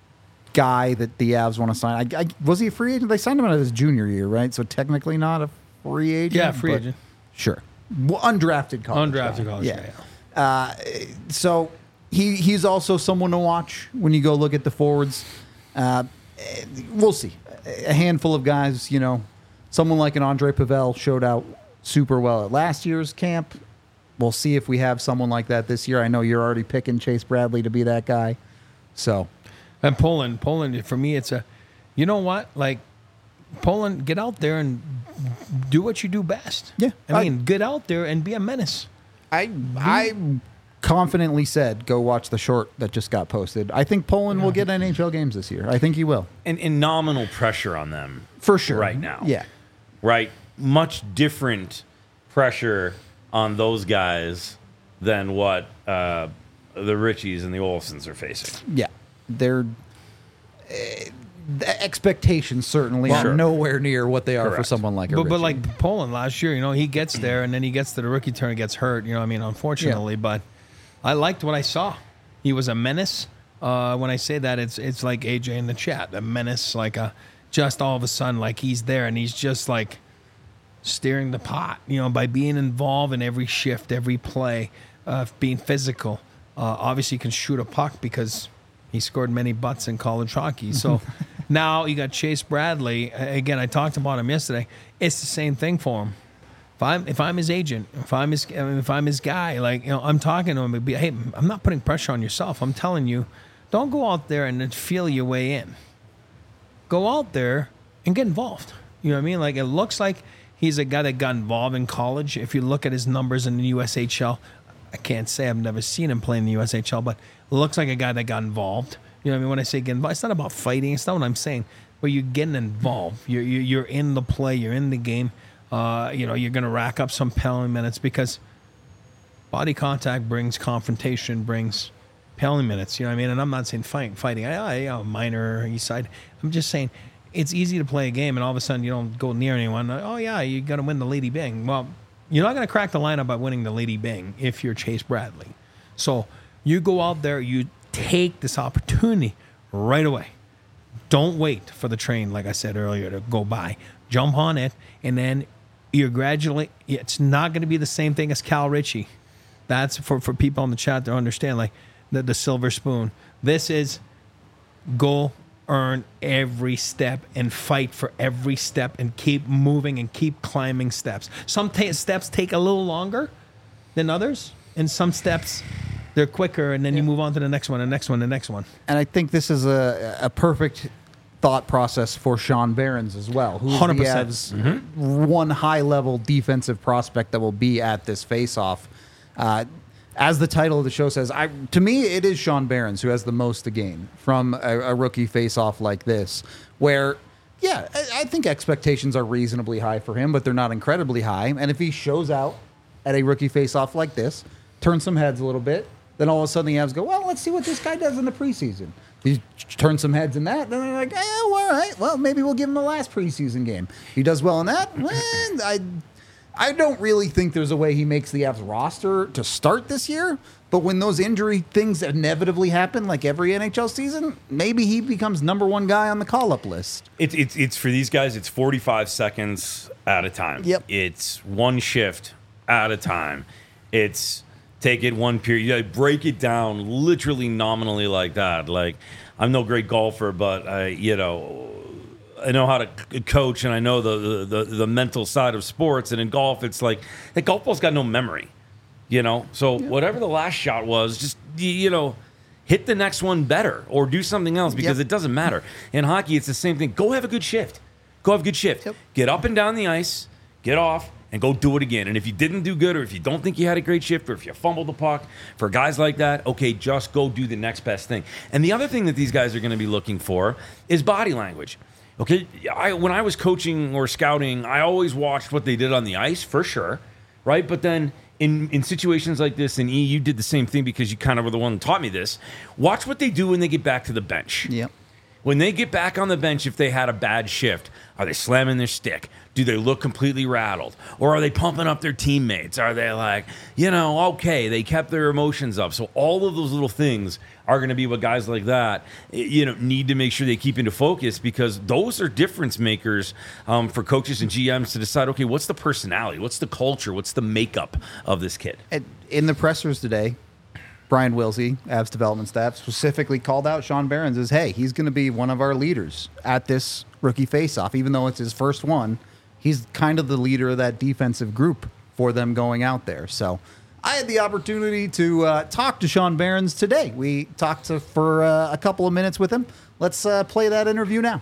Speaker 1: guy that the Avs want to sign. I, I, was he a free agent? They signed him out of his junior year, right? So technically not a free agent.
Speaker 3: Yeah, free
Speaker 1: but
Speaker 3: agent.
Speaker 1: Sure. Well, undrafted college
Speaker 3: Undrafted
Speaker 1: guy.
Speaker 3: college
Speaker 1: yeah.
Speaker 3: guy,
Speaker 1: Uh, so he he's also someone to watch when you go look at the forwards. Uh, we'll see. A handful of guys, you know, someone like an Andre Pavel showed out super well at last year's camp. We'll see if we have someone like that this year. I know you're already picking Chase Bradley to be that guy. So,
Speaker 3: and Poland, Poland for me, it's a, you know what, like Poland, get out there and do what you do best.
Speaker 1: Yeah,
Speaker 3: I
Speaker 1: I-
Speaker 3: mean, get out there and be a menace.
Speaker 1: I I confidently said go watch the short that just got posted. I think Poland will get N H L games this year. I think he will.
Speaker 2: And, and nominal pressure on them
Speaker 1: For sure.
Speaker 2: right now.
Speaker 1: Yeah.
Speaker 2: Right? Much different pressure on those guys than what uh, the Richies and the Olsons are facing.
Speaker 1: Yeah. They're uh, the expectations certainly
Speaker 2: Well,
Speaker 1: are
Speaker 2: sure.
Speaker 1: nowhere near what they are for
Speaker 2: Correct.
Speaker 1: someone like a
Speaker 3: But, but
Speaker 1: Richie.
Speaker 3: like Poland last year, you know, he gets there and then he gets to the rookie turn and gets hurt. You know, what I mean, unfortunately, but I liked what I saw. He was a menace. Uh, when I say that, it's it's like A J in the chat, a menace, like a just all of a sudden, like he's there and he's just like steering the pot, you know, by being involved in every shift, every play, uh, being physical. Uh, obviously, he can shoot a puck because he scored many butts in college hockey. So now you got Chase Bradley. Again, I talked about him yesterday. It's the same thing for him. If I'm if I'm his agent, if I'm his I mean, if I'm his guy, like you know, I'm talking to him. It'd be, hey, I'm not putting pressure on yourself. I'm telling you, don't go out there and then feel your way in. Go out there and get involved. You know what I mean? Like it looks like he's a guy that got involved in college. If you look at his numbers in the U S H L, I can't say I've never seen him play in the U S H L, but it looks like a guy that got involved. You know what I mean? When I say get involved, it's not about fighting. It's not what I'm saying. But you're getting involved. You're you're, you're in the play. You're in the game. Uh, you know, you're going to rack up some penalty minutes because body contact brings confrontation, brings penalty minutes. You know what I mean? And I'm not saying fight, fighting. I, I, you know, minor east side. I'm just saying it's easy to play a game and all of a sudden you don't go near anyone. Oh, yeah, you got to win the Lady Bing. Well, you're not going to crack the lineup by winning the Lady Bing if you're Chase Bradley. So you go out there, you take this opportunity right away. Don't wait for the train, like I said earlier, to go by. Jump on it, and then you're gradually, it's not going to be the same thing as Cal Ritchie. That's for, for people in the chat to understand, like the, the silver spoon. This is go earn every step and fight for every step and keep moving and keep climbing steps. Some ta- steps take a little longer than others, and some steps, they're quicker, and then you move on to the next one, the next one, the next one.
Speaker 1: and I think this is a a perfect thought process for Sean Behrens as well, who's
Speaker 3: one hundred
Speaker 1: the
Speaker 3: percent.
Speaker 1: Avs' one high-level defensive prospect that will be at this face-off. Uh, as the title of the show says, I, to me, it is Sean Behrens who has the most to gain from a, a rookie face-off like this, where, yeah, I, I think expectations are reasonably high for him, but they're not incredibly high. And if he shows out at a rookie face-off like this, turns some heads a little bit, then all of a sudden the Avs go, well, let's see what this guy does in the preseason. He turns some heads in that, then they're like, oh, all right, well, maybe we'll give him the last preseason game. He does well in that. Well, I, I don't really think there's a way he makes the Avs roster to start this year, but when those injury things inevitably happen, like every N H L season, maybe he becomes number one guy on the call-up list.
Speaker 2: It's it's it's for these guys. It's forty-five seconds at a time.
Speaker 1: Yep.
Speaker 2: It's one shift at a time. It's take it one period. You gotta break it down literally nominally like that. Like I'm no great golfer, but I you know I know how to c- coach and I know the, the the the mental side of sports. And in golf, it's like the golf ball's got no memory. You know, so whatever the last shot was, just, you know, hit the next one better or do something else because
Speaker 1: Yep.
Speaker 2: it doesn't matter. In hockey, it's the same thing. Go have a good shift. Go have a good shift.
Speaker 1: Yep.
Speaker 2: Get up and down the ice, get off, and go do it again. And if you didn't do good or if you don't think you had a great shift or if you fumbled the puck, for guys like that, okay, just go do the next best thing. And the other thing that these guys are going to be looking for is body language. Okay, I, when I was coaching or scouting, I always watched what they did on the ice, for sure, right? But then in, in situations like this, and E, you did the same thing because you kind of were the one that taught me this. Watch what they do when they get back to the bench.
Speaker 1: Yep.
Speaker 2: When they get back on the bench, if they had a bad shift, are they slamming their stick? Do they look completely rattled? Or are they pumping up their teammates? Are they like, you know, okay, they kept their emotions up. So all of those little things are going to be what guys like that, you know, need to make sure they keep into focus because those are difference makers um, for coaches and G Ms to decide, okay, what's the personality? What's the culture? What's the makeup of this kid?
Speaker 1: And in the pressers today, Brian Wilsey, Avs development staff, specifically called out Sean Behrens as, hey, he's going to be one of our leaders at this rookie faceoff. Even though it's his first one, he's kind of the leader of that defensive group for them going out there. So I had the opportunity to uh, talk to Sean Behrens today. We talked to, for uh, a couple of minutes with him. Let's uh, play that interview now.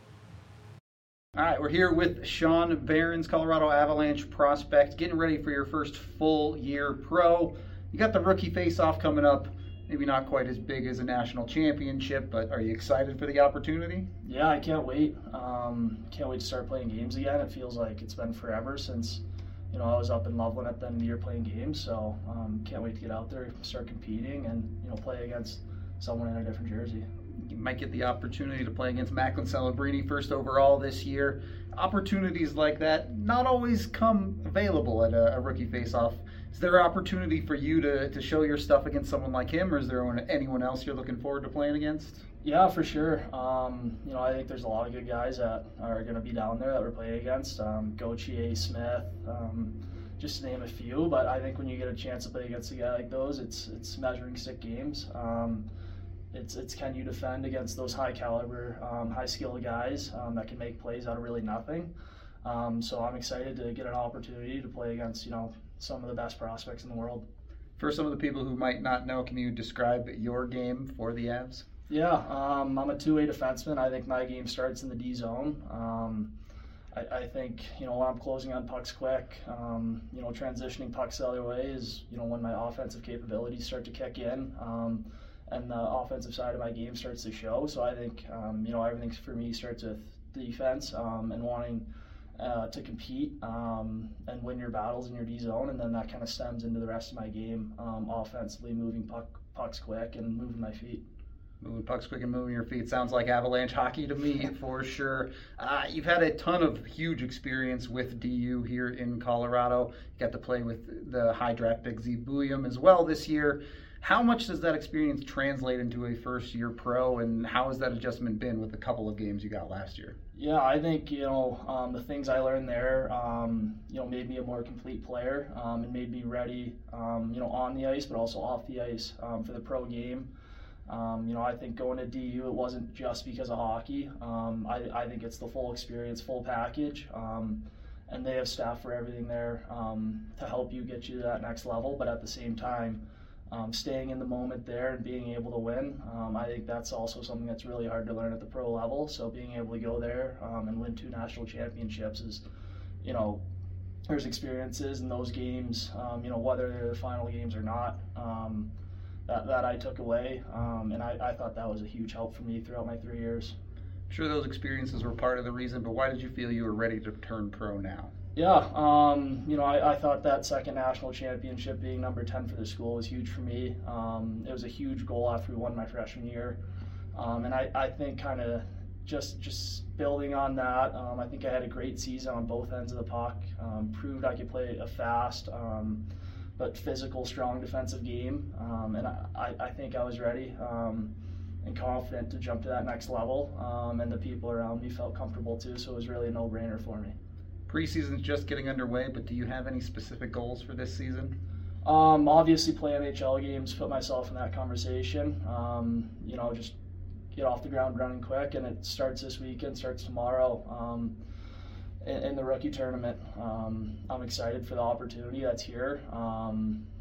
Speaker 1: All right, we're here with Sean Behrens, Colorado Avalanche prospect, getting ready for your first full year pro. You got the rookie face-off coming up. Maybe not quite as big as a national championship, but are you excited for the opportunity?
Speaker 11: Yeah, I can't wait. Um, can't wait to start playing games again. It feels like it's been forever since, you know, I was up in Loveland at the end of the year playing games. So um, can't wait to get out there, start competing, and you know, play against someone in a different jersey.
Speaker 1: You might get the opportunity to play against Macklin Celebrini first overall this year. Opportunities like that not always come available at a, a rookie face-off. Is there an opportunity for you to, to show your stuff against someone like him, or is there anyone else you're looking forward to playing against?
Speaker 11: Yeah, for sure. Um, you know, I think there's a lot of good guys that are going to be down there that we're playing against. Um, Gauthier, Smith, um, just to name a few. But I think when you get a chance to play against a guy like those, it's it's measuring stick games. Um, it's it's can you defend against those high caliber, um, high skill guys um, that can make plays out of really nothing. Um, so I'm excited to get an opportunity to play against, you know, some of the best prospects in the world.
Speaker 1: For some of the people who might not know, can you describe your game for the Avs?
Speaker 11: Yeah, um, I'm a two-way defenseman. I think my game starts in the D zone. Um, I, I think, you know, when I'm closing on pucks quick, um, you know, transitioning pucks the other way is, you know, when my offensive capabilities start to kick in, um, and the offensive side of my game starts to show. So I think, um, you know, everything for me starts with defense um, and wanting Uh, to compete um, and win your battles in your D zone, and then that kind of stems into the rest of my game, um, offensively moving puck, pucks quick and moving my feet.
Speaker 1: Moving pucks quick and moving your feet sounds like Avalanche hockey to me, for sure. Uh, you've had a ton of huge experience with D U here in Colorado. You got to play with the high draft pick Z Bouillon as well this year. How much does that experience translate into a first-year pro, and how has that adjustment been with the couple of games you got last year?
Speaker 11: Yeah, I think, you know, um, the things I learned there, um, you know, made me a more complete player um, and made me ready, um, you know, on the ice, but also off the ice um, for the pro game. Um, you know, I think going to D U, it wasn't just because of hockey. Um, I, I think it's the full experience, full package, um, and they have staff for everything there um, to help you get you to that next level, but at the same time, Um, staying in the moment there and being able to win. Um, I think that's also something that's really hard to learn at the pro level. So being able to go there um, and win two national championships is, you know, there's experiences in those games, um, you know, whether they're the final games or not, um, that, that I took away. Um, and I, I thought that was a huge help for me throughout my three years.
Speaker 1: I'm sure those experiences were part of the reason, but why did you feel you were ready to turn pro now?
Speaker 11: Yeah, um, you know, I, I thought that second national championship, being number ten for the school, was huge for me. Um, it was a huge goal after we won my freshman year. Um, and I, I think kind of just just building on that, um, I think I had a great season on both ends of the puck, um, proved I could play a fast um, but physical, strong defensive game. Um, and I, I think I was ready um, and confident to jump to that next level. Um, and the people around me felt comfortable too, so it was really a no-brainer for me.
Speaker 1: Preseason's just getting underway, but do you have any specific goals for this season?
Speaker 11: Um, obviously play N H L games, put myself in that conversation. Um, you know, just get off the ground running quick, and it starts this weekend, starts tomorrow um, in, in the rookie tournament. Um, I'm excited for the opportunity that's here. Um,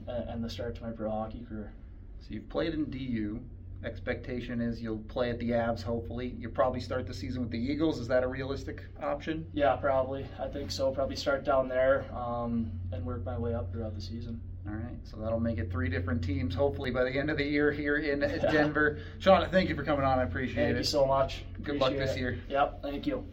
Speaker 11: and, and the start to my pro hockey career.
Speaker 1: So you've played in D U. Expectation is you'll play at the Avs, hopefully. You'll probably start the season with the Eagles. Is that a realistic option?
Speaker 11: Yeah, probably. I think so. Probably start down there um, and work my way up throughout the season.
Speaker 1: All right, so that'll make it three different teams, hopefully, by the end of the year here in Denver. Sean, thank you for coming on. I appreciate
Speaker 11: thank
Speaker 1: it.
Speaker 11: Thank you so much.
Speaker 1: Good
Speaker 11: Appreciate
Speaker 1: luck this
Speaker 11: it.
Speaker 1: year.
Speaker 11: Yep, thank you.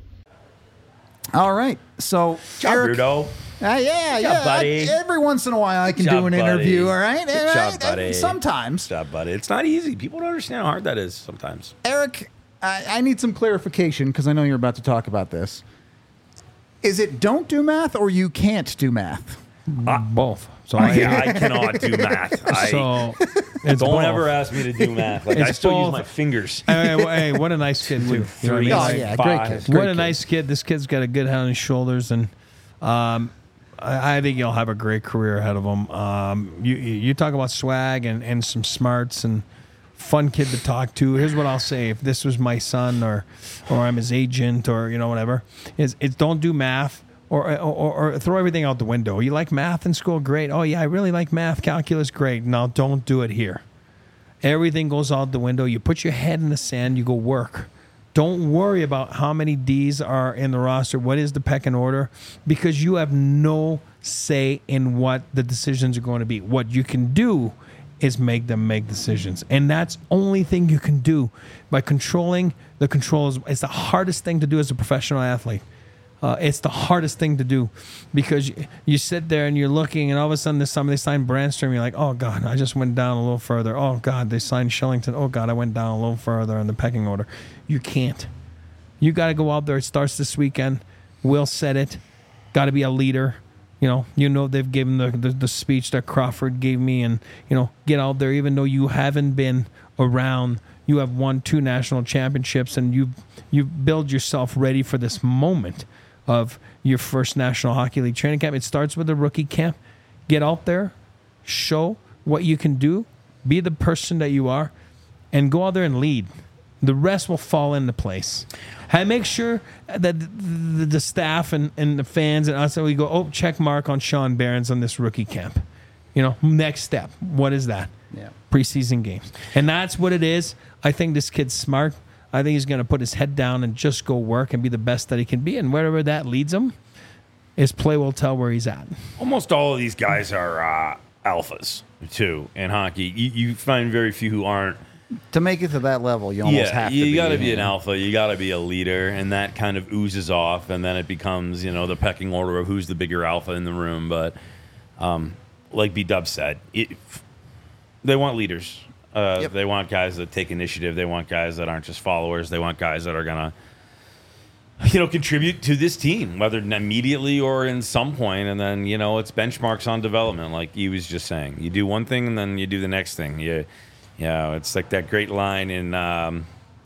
Speaker 1: All right, so
Speaker 2: Job,
Speaker 1: Eric,
Speaker 2: Rudo.
Speaker 1: Uh, yeah,
Speaker 2: Good
Speaker 1: yeah.
Speaker 2: job, buddy.
Speaker 1: I- every once in a while, I can
Speaker 2: Good
Speaker 1: do
Speaker 2: job,
Speaker 1: an
Speaker 2: buddy.
Speaker 1: interview. All right,
Speaker 2: Good
Speaker 1: all
Speaker 2: job,
Speaker 1: right?
Speaker 2: buddy.
Speaker 1: Sometimes,
Speaker 2: Good job, buddy. It's not easy. People don't understand how hard that is sometimes.
Speaker 1: Eric, I, I need some clarification because I know you're about to talk about this. Is it don't do math or you can't do math?
Speaker 3: Uh, Both. So
Speaker 2: I,
Speaker 3: I,
Speaker 2: I cannot do math. I,
Speaker 3: so it's
Speaker 2: don't
Speaker 3: both.
Speaker 2: ever ask me to do math. Like I
Speaker 3: It's
Speaker 2: still use
Speaker 3: both.
Speaker 2: my fingers.
Speaker 3: Hey, hey, hey, what a nice kid too. You know what I
Speaker 2: Three,
Speaker 3: mean?
Speaker 1: Oh,
Speaker 3: Like,
Speaker 1: yeah,
Speaker 2: five.
Speaker 1: great kid.
Speaker 3: what
Speaker 1: great
Speaker 3: a
Speaker 1: kid.
Speaker 3: nice kid. This kid's got a good head on his shoulders, and um, I, I think he'll have a great career ahead of him. Um, you you talk about swag and, and some smarts and fun kid to talk to. Here's what I'll say: if this was my son or or I'm his agent or you know whatever, is it's don't do math. Or, or, or throw everything out the window. You like math in school? Great. Oh, yeah, I really like math. Calculus? Great. No, don't do it here. Everything goes out the window. You put your head in the sand. You go work. Don't worry about how many D's are in the roster. What is the pecking order? Because you have no say in what the decisions are going to be. What you can do is make them make decisions. And that's only thing you can do by controlling the controls. It's the hardest thing to do as a professional athlete. Uh, it's the hardest thing to do because you, you sit there and you're looking and all of a sudden there's somebody signed Brandstrom. You're like, oh, God, I just went down a little further. Oh, God, they signed Shillington. Oh, God, I went down a little further in the pecking order. You can't. You got to go out there. It starts this weekend. Will said it. Got to be a leader. You know, you know they've given the, the, the speech that Crawford gave me and, you know, get out there even though you haven't been around. You have won two national championships and you you build yourself ready for this moment of your first National Hockey League training camp. It starts with a rookie camp. Get out there, show what you can do, be the person that you are, and go out there and lead. The rest will fall into place. And make sure that the, the, the staff and, and the fans and us, we go, oh, check mark on Sean Behrens on this rookie camp. You know, next step. What is that?
Speaker 1: Yeah.
Speaker 3: Preseason games. And that's what it is. I think this kid's smart. I think he's going to put his head down and just go work and be the best that he can be. And wherever that leads him, his play will tell where he's at.
Speaker 2: Almost all of these guys are uh, alphas, too, in hockey. You, you find very few who aren't.
Speaker 1: To make it to that level, you almost
Speaker 2: yeah,
Speaker 1: have to
Speaker 2: you
Speaker 1: be.
Speaker 2: got to be an
Speaker 1: yeah.
Speaker 2: alpha. You got to be a leader, and that kind of oozes off, and then it becomes, you know, the pecking order of who's the bigger alpha in the room. But um, like B-Dub said, it, they want leaders. Uh,
Speaker 1: Yep.
Speaker 2: They want guys that take initiative. They want guys that aren't just followers. They want guys that are gonna, you know, contribute to this team, whether immediately or in some point. And then, you know, it's benchmarks on development, like he was just saying. You do one thing, and then you do the next thing. You, you know, it's like that great line in, um,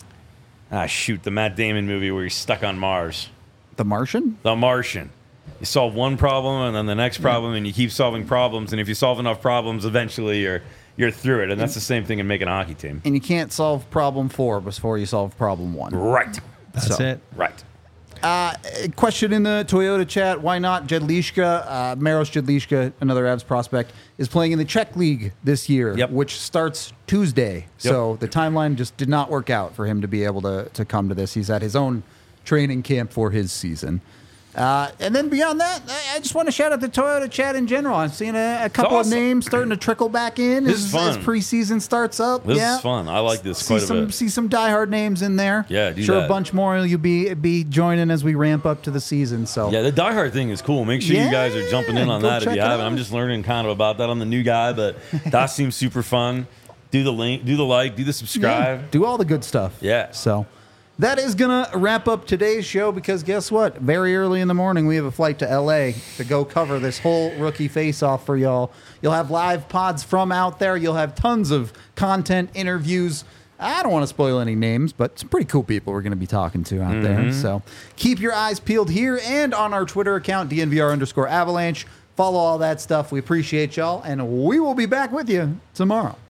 Speaker 2: ah, shoot, the Matt Damon movie where he's stuck on Mars.
Speaker 1: The Martian?
Speaker 2: The Martian. You solve one problem, and then the next problem, and you keep solving problems. And if you solve enough problems, eventually you're you're through it. And that's the same thing in making a hockey team.
Speaker 1: And you can't solve problem four before you solve problem one.
Speaker 2: Right.
Speaker 3: That's
Speaker 1: So-
Speaker 3: it.
Speaker 2: Right.
Speaker 1: Uh, a question in the Toyota chat. Why not Jedliška? Uh, Maros Jedliška, another Avs prospect, is playing in the Czech League this year,
Speaker 2: Yep.
Speaker 1: which starts Tuesday. So the timeline just did not work out for him to be able to, to come to this. He's at his own training camp for his season. Uh, and then beyond that, I, I just want to shout out the Toyota chat in general. I'm seeing a, a couple
Speaker 2: awesome.
Speaker 1: of names starting to trickle back in
Speaker 2: This
Speaker 1: as,
Speaker 2: is fun.
Speaker 1: as preseason starts up.
Speaker 2: This
Speaker 1: yeah.
Speaker 2: is fun. I like this
Speaker 1: See
Speaker 2: quite a
Speaker 1: some
Speaker 2: bit.
Speaker 1: see some diehard names in there.
Speaker 2: Yeah, do
Speaker 1: sure
Speaker 2: that.
Speaker 1: a bunch more you'll be be joining as we ramp up to the season. So
Speaker 2: Yeah, the Die Hard thing is cool. Make sure you guys are jumping in on
Speaker 1: go
Speaker 2: that if
Speaker 1: check
Speaker 2: you
Speaker 1: it
Speaker 2: haven't.
Speaker 1: out.
Speaker 2: I'm just learning kind of about that. I'm the new guy, but that seems super fun. Do the link, do the like, do the subscribe.
Speaker 1: Yeah, do all the good stuff.
Speaker 2: Yeah.
Speaker 1: So that is going to wrap up today's show because guess what? Very early in the morning, we have a flight to L A to go cover this whole rookie face-off for y'all. You'll have live pods from out there. You'll have tons of content, interviews. I don't want to spoil any names, but some pretty cool people we're going to be talking to out there. So keep your eyes peeled here and on our Twitter account, D N V R underscore Avalanche. Follow all that stuff. We appreciate y'all, and we will be back with you tomorrow.